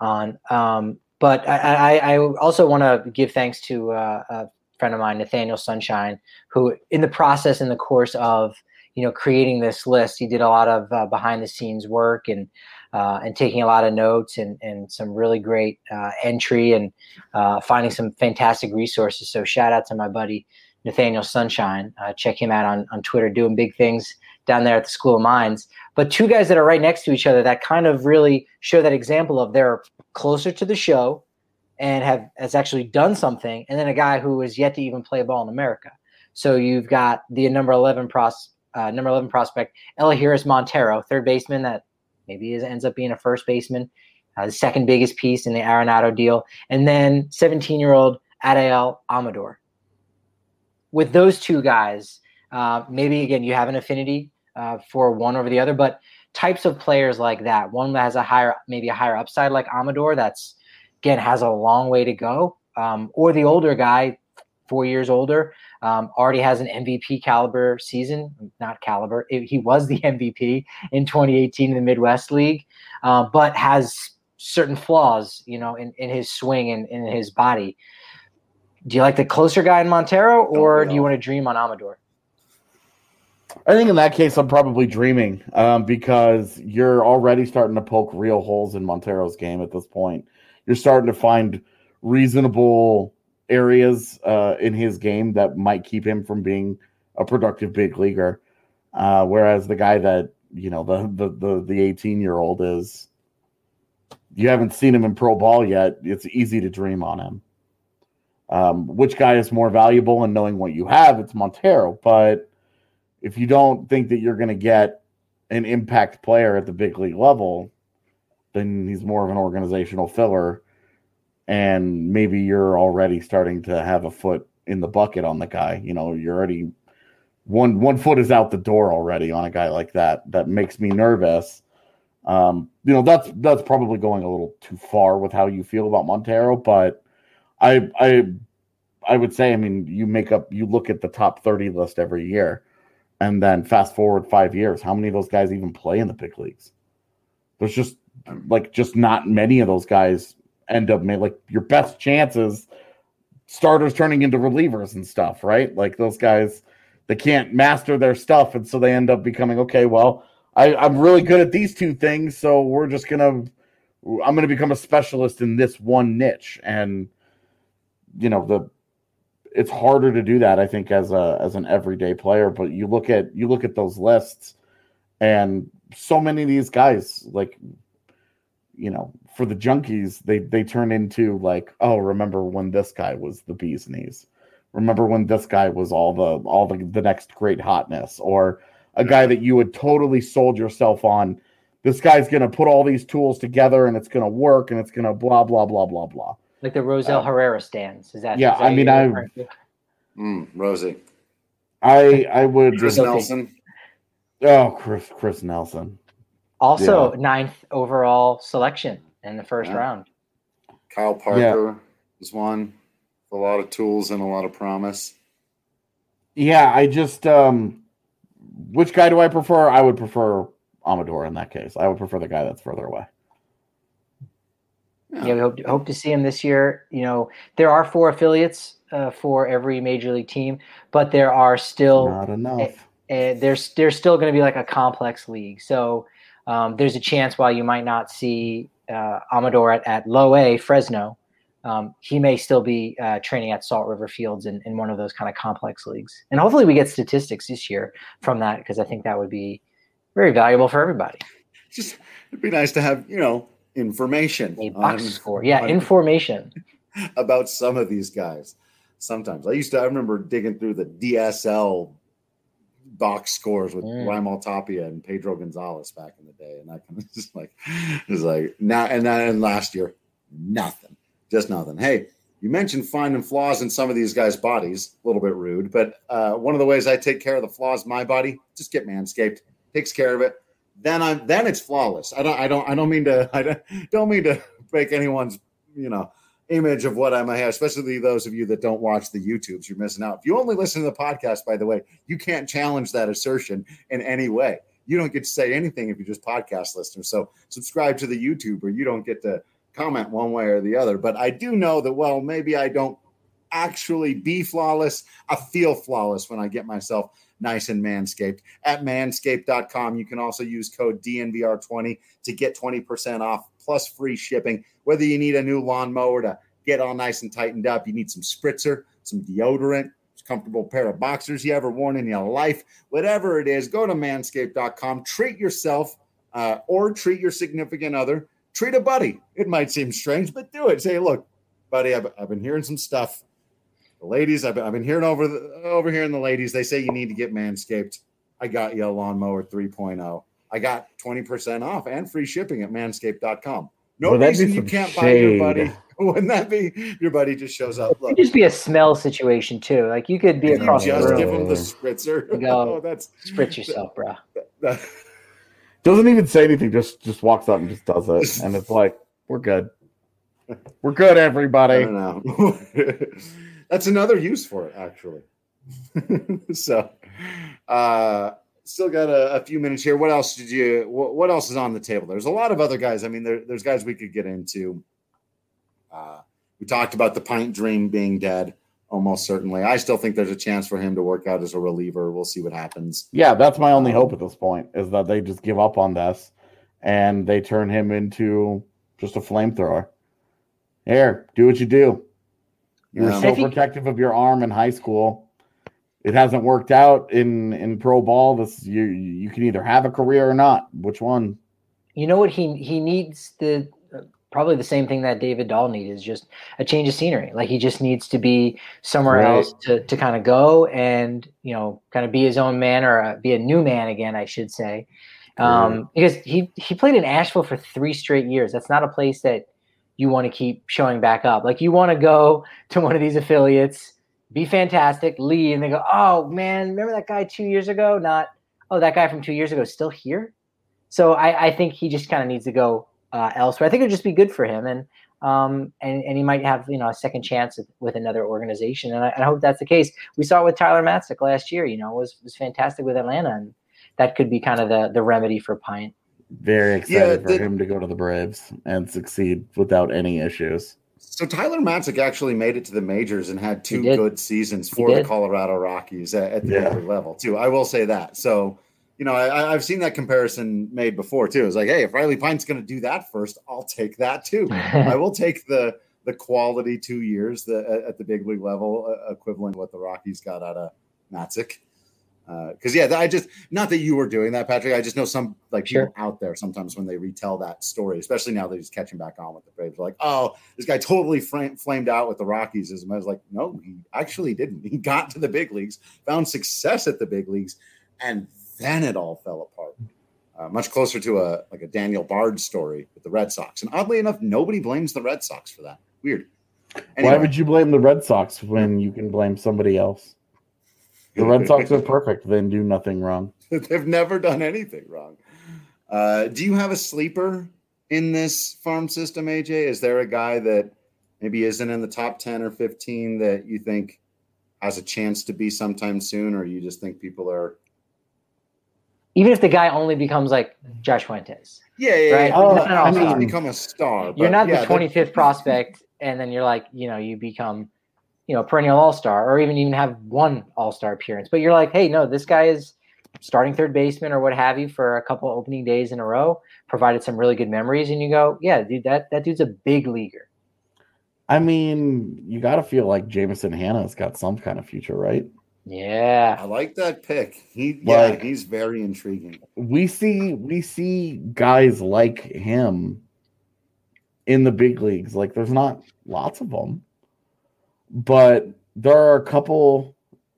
on. But I also want to give thanks to a friend of mine, Nathaniel Sunshine, who in the process, in the course of creating this list, he did a lot of behind the scenes work and taking a lot of notes and some really great entry and finding some fantastic resources. So shout out to my buddy Nathaniel Sunshine. Check him out on Twitter, doing big things down there at the School of Mines. But two guys that are right next to each other that kind of really show that example of they're closer to the show and has actually done something, and then a guy who is yet to even play ball in America. So you've got the number 11 prospect, Elahiris Montero, third baseman that maybe ends up being a first baseman, the second biggest piece in the Arenado deal, and then 17-year-old Adael Amador. With those two guys, maybe, again, you have an affinity for one over the other, but types of players like that, one that has maybe a higher upside like Amador, that's, again, has a long way to go, or the older guy, 4 years older, already has an MVP caliber season, not caliber. He was the MVP in 2018 in the Midwest League, but has certain flaws, in his swing and in his body. Do you like the closer guy in Montero, or do you want to dream on Amador? I think in that case, I'm probably dreaming because you're already starting to poke real holes in Montero's game at this point. You're starting to find reasonable areas in his game that might keep him from being a productive big leaguer. Whereas the guy that, the 18-year-old is, you haven't seen him in pro ball yet. It's easy to dream on him. Which guy is more valuable? And knowing what you have, it's Montero. But if you don't think that you're going to get an impact player at the big league level, then he's more of an organizational filler. And maybe you're already starting to have a foot in the bucket on the guy. You're already one foot is out the door already on a guy like that. That makes me nervous. That's probably going a little too far with how you feel about Montero, but I would say, you look at the top 30 list every year, and then fast forward 5 years, how many of those guys even play in the big leagues? There's just not many of those guys end up your best chances, starters turning into relievers and stuff, right? Like those guys, they can't master their stuff, and so they end up becoming, okay, well, I'm really good at these two things, so I'm gonna become a specialist in this one niche. And it's harder to do that, I think, as an everyday player. But you look at those lists, and so many of these guys, for the junkies, they turn into oh, remember when this guy was the bee's knees? Remember when this guy was all the next great hotness, or a guy that you had totally sold yourself on. This guy's going to put all these tools together, and it's going to work, and it's going to blah blah blah blah blah. Like the Rosell Herrera stands. Is that? Yeah, Rosie. I would. Chris Nelson. Oh, Chris Nelson. Also, 9th overall selection in the first round. Kyle Parker was one with a lot of tools and a lot of promise. Yeah, I just which guy do I prefer? I would prefer Amador in that case. I would prefer the guy that's further away. Yeah, we hope to see him this year. There are 4 affiliates for every major league team, but there are still not enough. There's still going to be a complex league. So there's a chance while you might not see Amador at low A, Fresno, he may still be training at Salt River Fields in one of those kind of complex leagues. And hopefully we get statistics this year from that, because I think that would be very valuable for everybody. It'd be nice to have, information. A box score. Yeah, information. About some of these guys. Sometimes. I remember digging through the DSL box scores with Raimel Tapia and Pedro Gonzalez back in the day. And that kind of just now and last year, nothing. Just nothing. Hey, you mentioned finding flaws in some of these guys' bodies. A little bit rude, but one of the ways I take care of the flaws in my body, just get Manscaped. Takes care of it. Then it's flawless. I don't mean to break anyone's image of what I might have, especially those of you that don't watch the YouTubes. You're missing out. If you only listen to the podcast, by the way, you can't challenge that assertion in any way. You don't get to say anything if you're just podcast listeners. So subscribe to the YouTube, or you don't get to comment one way or the other, but I do know that, well, maybe I don't actually be flawless. I feel flawless when I get myself nice and manscaped. At manscaped.com, you can also use code DNVR20 to get 20% off plus free shipping. Whether you need a new lawnmower to get all nice and tightened up, you need some spritzer, some deodorant, a comfortable pair of boxers you ever worn in your life, whatever it is, go to manscaped.com, treat yourself or treat your significant other, treat a buddy. It might seem strange, but do it. Say, look, buddy, I've been hearing some stuff. The ladies, I've been hearing over here in the ladies, they say you need to get Manscaped. I got you a lawnmower 3.0. I got 20% off and free shipping at manscaped.com. No reason you can't buy your buddy. Wouldn't that be your buddy just shows up? Look, it could just be a smell situation too. Like you could be across the room. Just give him the spritzer. Go, spritz yourself, bro. Doesn't even say anything. Just walks up and just does it, and it's like we're good. We're good, everybody. I don't know. That's another use for it, actually. So, still got a few minutes here. What else what else is on the table? There's a lot of other guys. I mean, there's guys we could get into. We talked about the Pint Dream being dead, almost certainly. I still think there's a chance for him to work out as a reliever. We'll see what happens. Yeah, that's my only hope at this point, is that they just give up on this and they turn him into just a flamethrower. Here, do what you do. You were so protective of your arm in high school. It hasn't worked out in pro ball. You can either have a career or not. Which one? You know what he needs probably the same thing that David Dahl needs, is just a change of scenery. Like he just needs to be somewhere else to kind of go and, kind of be his own man, or be a new man again, I should say. Because he played in Asheville for 3 straight years. That's not a place that you want to keep showing back up. Like you want to go to one of these affiliates, be fantastic, leave, and they go, oh man, remember that guy 2 years ago? Not, oh, that guy from 2 years ago is still here. So I think he just kind of needs to go elsewhere. I think it would just be good for him, and he might have a second chance with another organization, and I hope that's the case. We saw it with Tyler Matzik last year. Was fantastic with Atlanta, and that could be kind of the remedy for Pint. Very excited for him to go to the Braves and succeed without any issues. So Tyler Matzik actually made it to the majors and had 2 good seasons for the Colorado Rockies at the major level too. I will say that. So, I've seen that comparison made before too. It's like, hey, if Riley Pint's going to do that first, I'll take that too. I will take the quality 2 years at the big league level equivalent to what the Rockies got out of Matzik. Because I just, not that you were doing that, Patrick. I just know some people out there sometimes when they retell that story, especially now that he's catching back on with the Braves, like, oh, this guy totally flamed out with the Rockies. I was like, no, he actually didn't. He got to the big leagues, found success at the big leagues, and then it all fell apart. Much closer to a Daniel Bard story with the Red Sox, and oddly enough, nobody blames the Red Sox for that. Weird. Anyway. Why would you blame the Red Sox when you can blame somebody else? The Red Sox are perfect. They do nothing wrong. They've never done anything wrong. Do you have a sleeper in this farm system, AJ? Is there a guy that maybe isn't in the top 10 or 15 that you think has a chance to be sometime soon, or you just think people are... Even if the guy only becomes like Josh Fuentes. Yeah. Right? I mean, become a star. You're not the 25th prospect, and then you're like, you become... perennial all-star, or even have one all-star appearance. But you're like, hey, no, this guy is starting third baseman or what have you for a couple opening days in a row, provided some really good memories. And you go, yeah, dude, that dude's a big leaguer. I mean, you got to feel like Jameson Hannah's got some kind of future, right? Yeah. I like that pick. He's very intriguing. We see guys like him in the big leagues. Like there's not lots of them. But there are a couple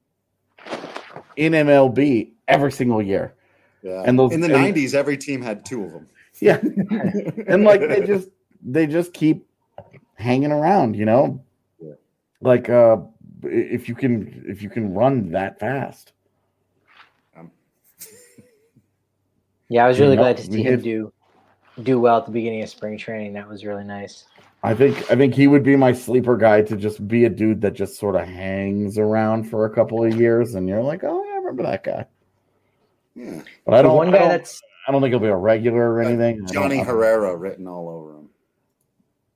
in MLB every single year. Yeah. And in the 90s, every team had 2 of them. Yeah. And they just keep hanging around, Yeah. Like if you can run that fast. Yeah, I was really glad to see him do well at the beginning of spring training. That was really nice. I think he would be my sleeper guy, to just be a dude that just sort of hangs around for a couple of years, and you're like, oh, yeah, I remember that guy. Yeah, but I don't think he'll be a regular or anything. Johnny Herrera written all over him.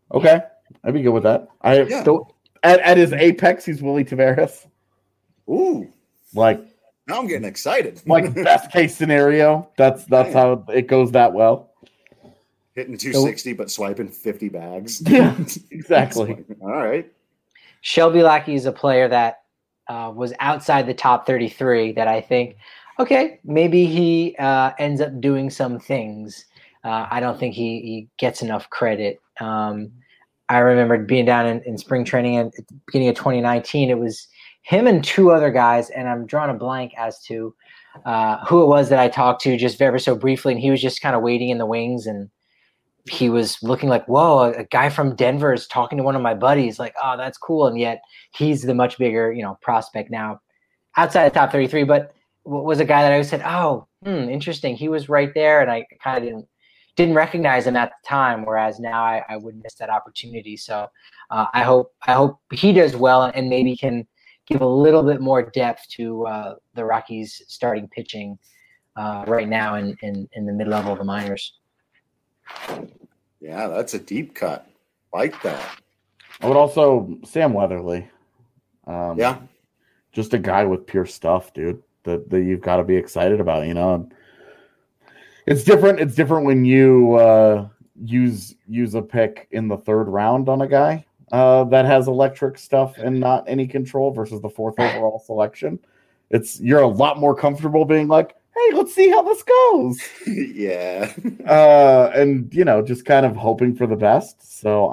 Okay, I'd be good with that. Yeah. At his apex, he's Willie Tavares. Ooh, Like now I'm getting excited. best case scenario. That's how it goes that well. Hitting 260, but swiping 50 bags. Yeah, exactly. All right. Shelby Lackey is a player that was outside the top 33 that I think, okay, maybe he ends up doing some things. I don't think he gets enough credit. I remember being down in spring training at the beginning of 2019. It was him and two other guys, and I'm drawing a blank as to who it was that I talked to just ever so briefly, and he was just kind of waiting in the wings, and he was looking like, whoa, a guy from Denver is talking to one of my buddies. Like, oh, that's cool. And yet he's the much bigger, prospect now outside the top 33. But was a guy that I said, oh, interesting. He was right there. And I kind of didn't recognize him at the time. Whereas now I would miss that opportunity. So I hope he does well and maybe can give a little bit more depth to the Rockies starting pitching right now in the mid-level of the minors. Yeah, that's a deep cut. Like that. I would also Sam Weatherly. Yeah. Just a guy with pure stuff, dude, that you've got to be excited about, It's different. It's different when you use a pick in the third round on a guy that has electric stuff and not any control versus the fourth overall selection. You're a lot more comfortable being like, hey, let's see how this goes. Yeah. And, just kind of hoping for the best. So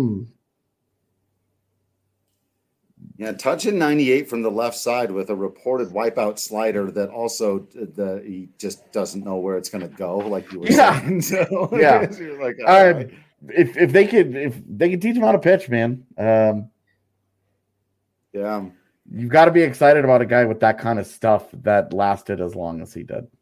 touching 98 from the left side with a reported wipeout slider that also he just doesn't know where it's going to go, like you were saying. So, yeah. You're like, all right. If they could teach him how to pitch, man. Yeah. You've got to be excited about a guy with that kind of stuff that lasted as long as he did.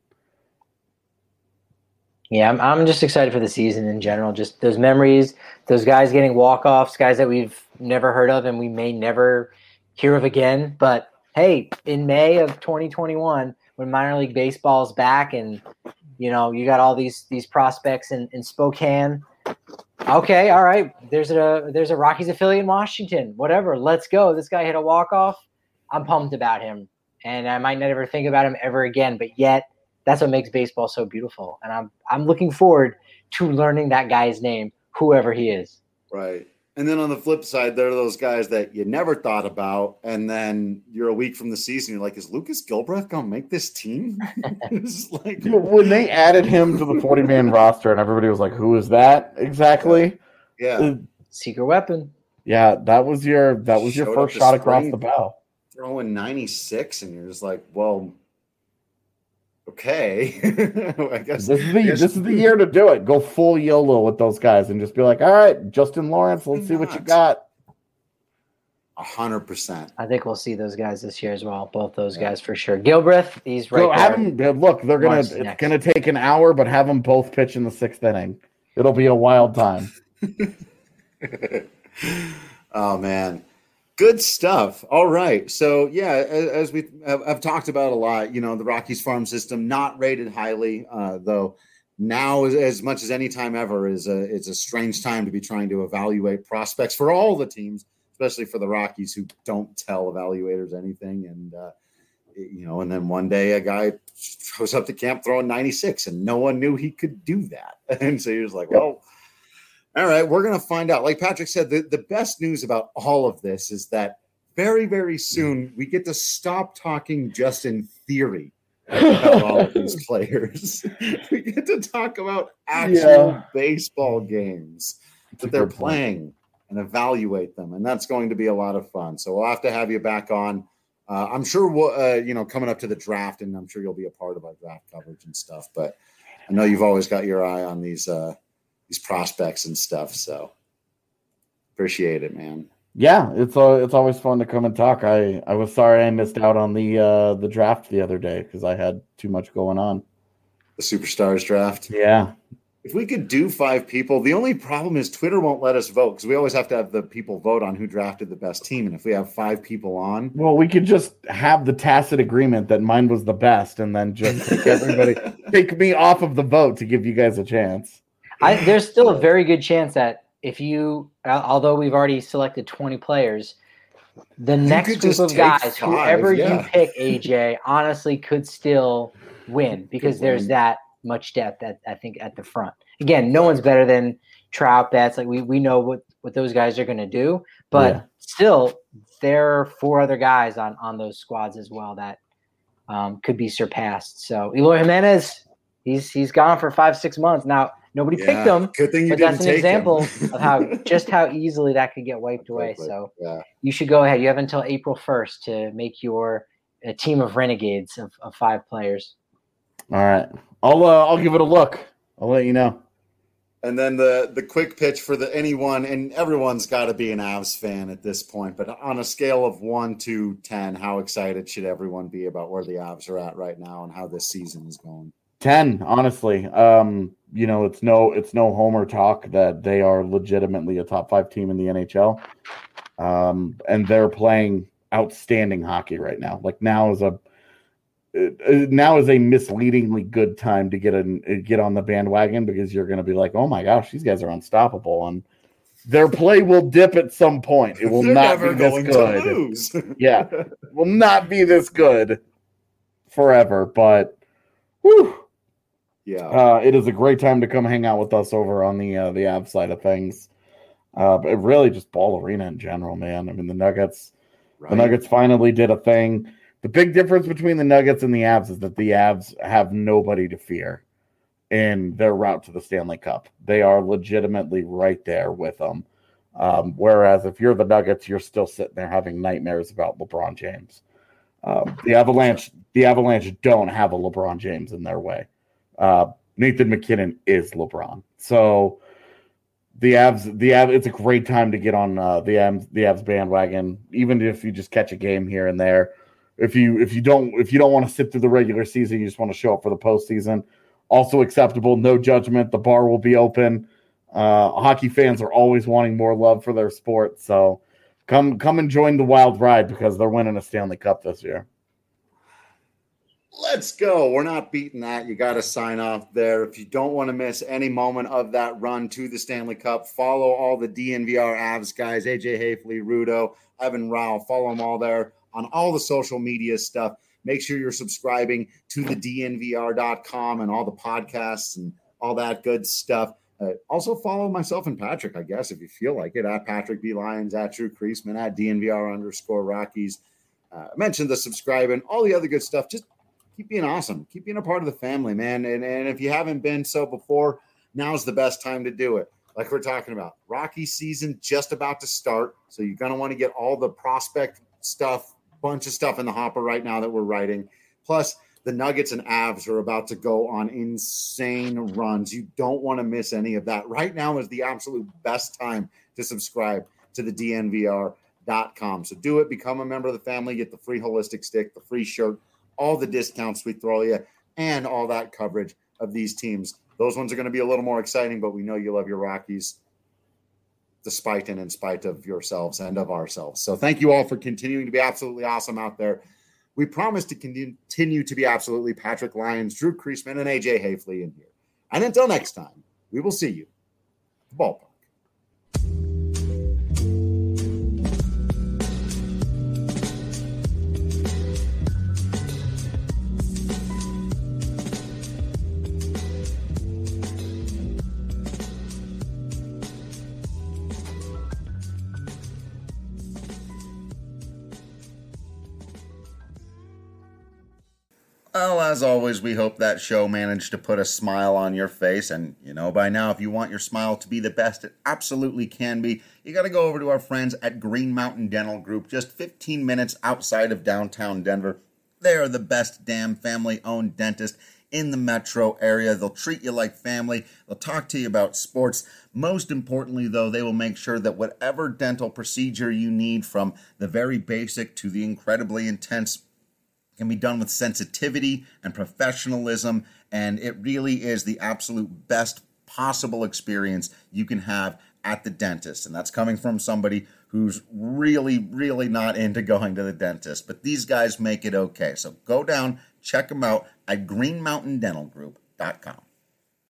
Yeah, I'm just excited for the season in general. Just those memories, those guys getting walk-offs, guys that we've never heard of and we may never hear of again. But, hey, in May of 2021, when minor league baseball's back and, you got all these prospects in Spokane, okay, all right, there's a Rockies affiliate in Washington, whatever, let's go. This guy hit a walk-off. I'm pumped about him, and I might never think about him ever again, but yet that's what makes baseball so beautiful. And I'm looking forward to learning that guy's name, whoever he is. Right. And then on the flip side, there are those guys that you never thought about, and then you're a week from the season, you're like, is Lucas Gilbreth going to make this team? It's like when they added him to the 40-man roster and everybody was like, who is that exactly? Yeah. Secret weapon. Yeah, that was your first shot across the bow. Throwing 96, and you're just like, well, okay. I guess this is the year to do it. Go full YOLO with those guys and just be like, all right, Justin Lawrence, let's see what you got. 100%. I think we'll see those guys this year as well. Both those guys for sure. Gilbreth, he's right. So have them look. It's gonna take an hour, but have them both pitch in the 6th inning. It'll be a wild time. Oh man. Good stuff. All right. So, yeah, as I've talked about a lot, the Rockies farm system not rated highly, though now as much as any time ever it's a strange time to be trying to evaluate prospects for all the teams, especially for the Rockies who don't tell evaluators anything. And, and then one day a guy shows up to camp throwing 96 and no one knew he could do that. And so you're just like, well, all right, we're going to find out. Like Patrick said, the best news about all of this is that very, very soon we get to stop talking just in theory about all of these players. We get to talk about actual baseball games that they're playing and evaluate them. And that's going to be a lot of fun. So we'll have to have you back on. I'm sure we'll, coming up to the draft, and I'm sure you'll be a part of our draft coverage and stuff. But I know you've always got your eye on these prospects and stuff. So appreciate it, man. Yeah, it's always fun to come and talk. I was sorry I missed out on the draft the other day because I had too much going on. The Superstars draft. Yeah. If we could do 5 people, the only problem is Twitter won't let us vote because we always have to have the people vote on who drafted the best team. And if we have 5 people on, well, we could just have the tacit agreement that mine was the best, and then just take me off of the vote to give you guys a chance. There's still a very good chance that if you, although we've already selected 20 players, the next group of guys, whoever you pick, AJ, honestly could still win because there's that much depth I think at the front. Again, no one's better than Trout, Betts. Like we know what those guys are going to do, but still there are 4 other guys on those squads as well that could be surpassed. So Eloy Jimenez, he's gone for 5-6 months now. Nobody picked him, good thing you but didn't that's an take example him. of how easily that could get wiped away. So you should go ahead. You have until April 1st to make your team of renegades of 5 players. All right, I'll give it a look. I'll let you know. And then the quick pitch for anyone, and everyone's got to be an Avs fan at this point, but on a scale of 1 to 10, how excited should everyone be about where the Avs are at right now and how this season is going? 10, honestly. It's no homer talk that they are legitimately a top 5 team in the NHL. And they're playing outstanding hockey right now. Like now is a misleadingly good time to get on the bandwagon because you're going to be like, oh my gosh, these guys are unstoppable, and their play will dip at some point. It will not be this good. Yeah, it will not be this good forever. But whew, it is a great time to come hang out with us over on the Avs side of things. But really just Ball Arena in general, man. I mean, the Nuggets finally did a thing. The big difference between the Nuggets and the Avs is that the Avs have nobody to fear in their route to the Stanley Cup. They are legitimately right there with them. Whereas if you're the Nuggets, you're still sitting there having nightmares about LeBron James. The Avalanche don't have a LeBron James in their way. Nathan McKinnon is LeBron. So the Avs, it's a great time to get on the Avs bandwagon, even if you just catch a game here and there. If you don't want to sit through the regular season, you just want to show up for the postseason. Also acceptable, no judgment. The bar will be open. Hockey fans are always wanting more love for their sport, so come and join the wild ride because they're winning a Stanley Cup this year. Let's go. We're not beating that. You got to sign off there. If you don't want to miss any moment of that run to the Stanley Cup, follow all the DNVR Avs guys, AJ Hafley, Rudo, Evan Rao. Follow them all there on all the social media stuff. Make sure you're subscribing to the DNVR.com and all the podcasts and all that good stuff. Also follow myself and Patrick, I guess, if you feel like it, at Patrick B. Lyons, at Drew Creasman, at DNVR_Rockies. I mentioned the subscribe and all the other good stuff. Just keep being awesome. Keep being a part of the family, man. And if you haven't been so before, now's the best time to do it. Like we're talking about, Rocky season just about to start. So you're going to want to get all the prospect stuff, bunch of stuff in the hopper right now that we're writing. Plus, the Nuggets and Avs are about to go on insane runs. You don't want to miss any of that. Right now is the absolute best time to subscribe to the DNVR.com. So do it. Become a member of the family. Get the free holistic stick, the free shirt, all the discounts we throw you, and all that coverage of these teams. Those ones are going to be a little more exciting, but we know you love your Rockies despite and in spite of yourselves and of ourselves. So thank you all for continuing to be absolutely awesome out there. We promise to continue to be absolutely Patrick Lyons, Drew Creasman, and AJ Hafley in here. And until next time, we will see you at the ballpark. Well, as always, we hope that show managed to put a smile on your face. And, by now, if you want your smile to be the best it absolutely can be, you got to go over to our friends at Green Mountain Dental Group, just 15 minutes outside of downtown Denver. They are the best damn family-owned dentist in the metro area. They'll treat you like family. They'll talk to you about sports. Most importantly, though, they will make sure that whatever dental procedure you need, from the very basic to the incredibly intense, can be done with sensitivity and professionalism, and it really is the absolute best possible experience you can have at the dentist. And that's coming from somebody who's really, really not into going to the dentist. But these guys make it okay. So go down, check them out at greenmountaindentalgroup.com.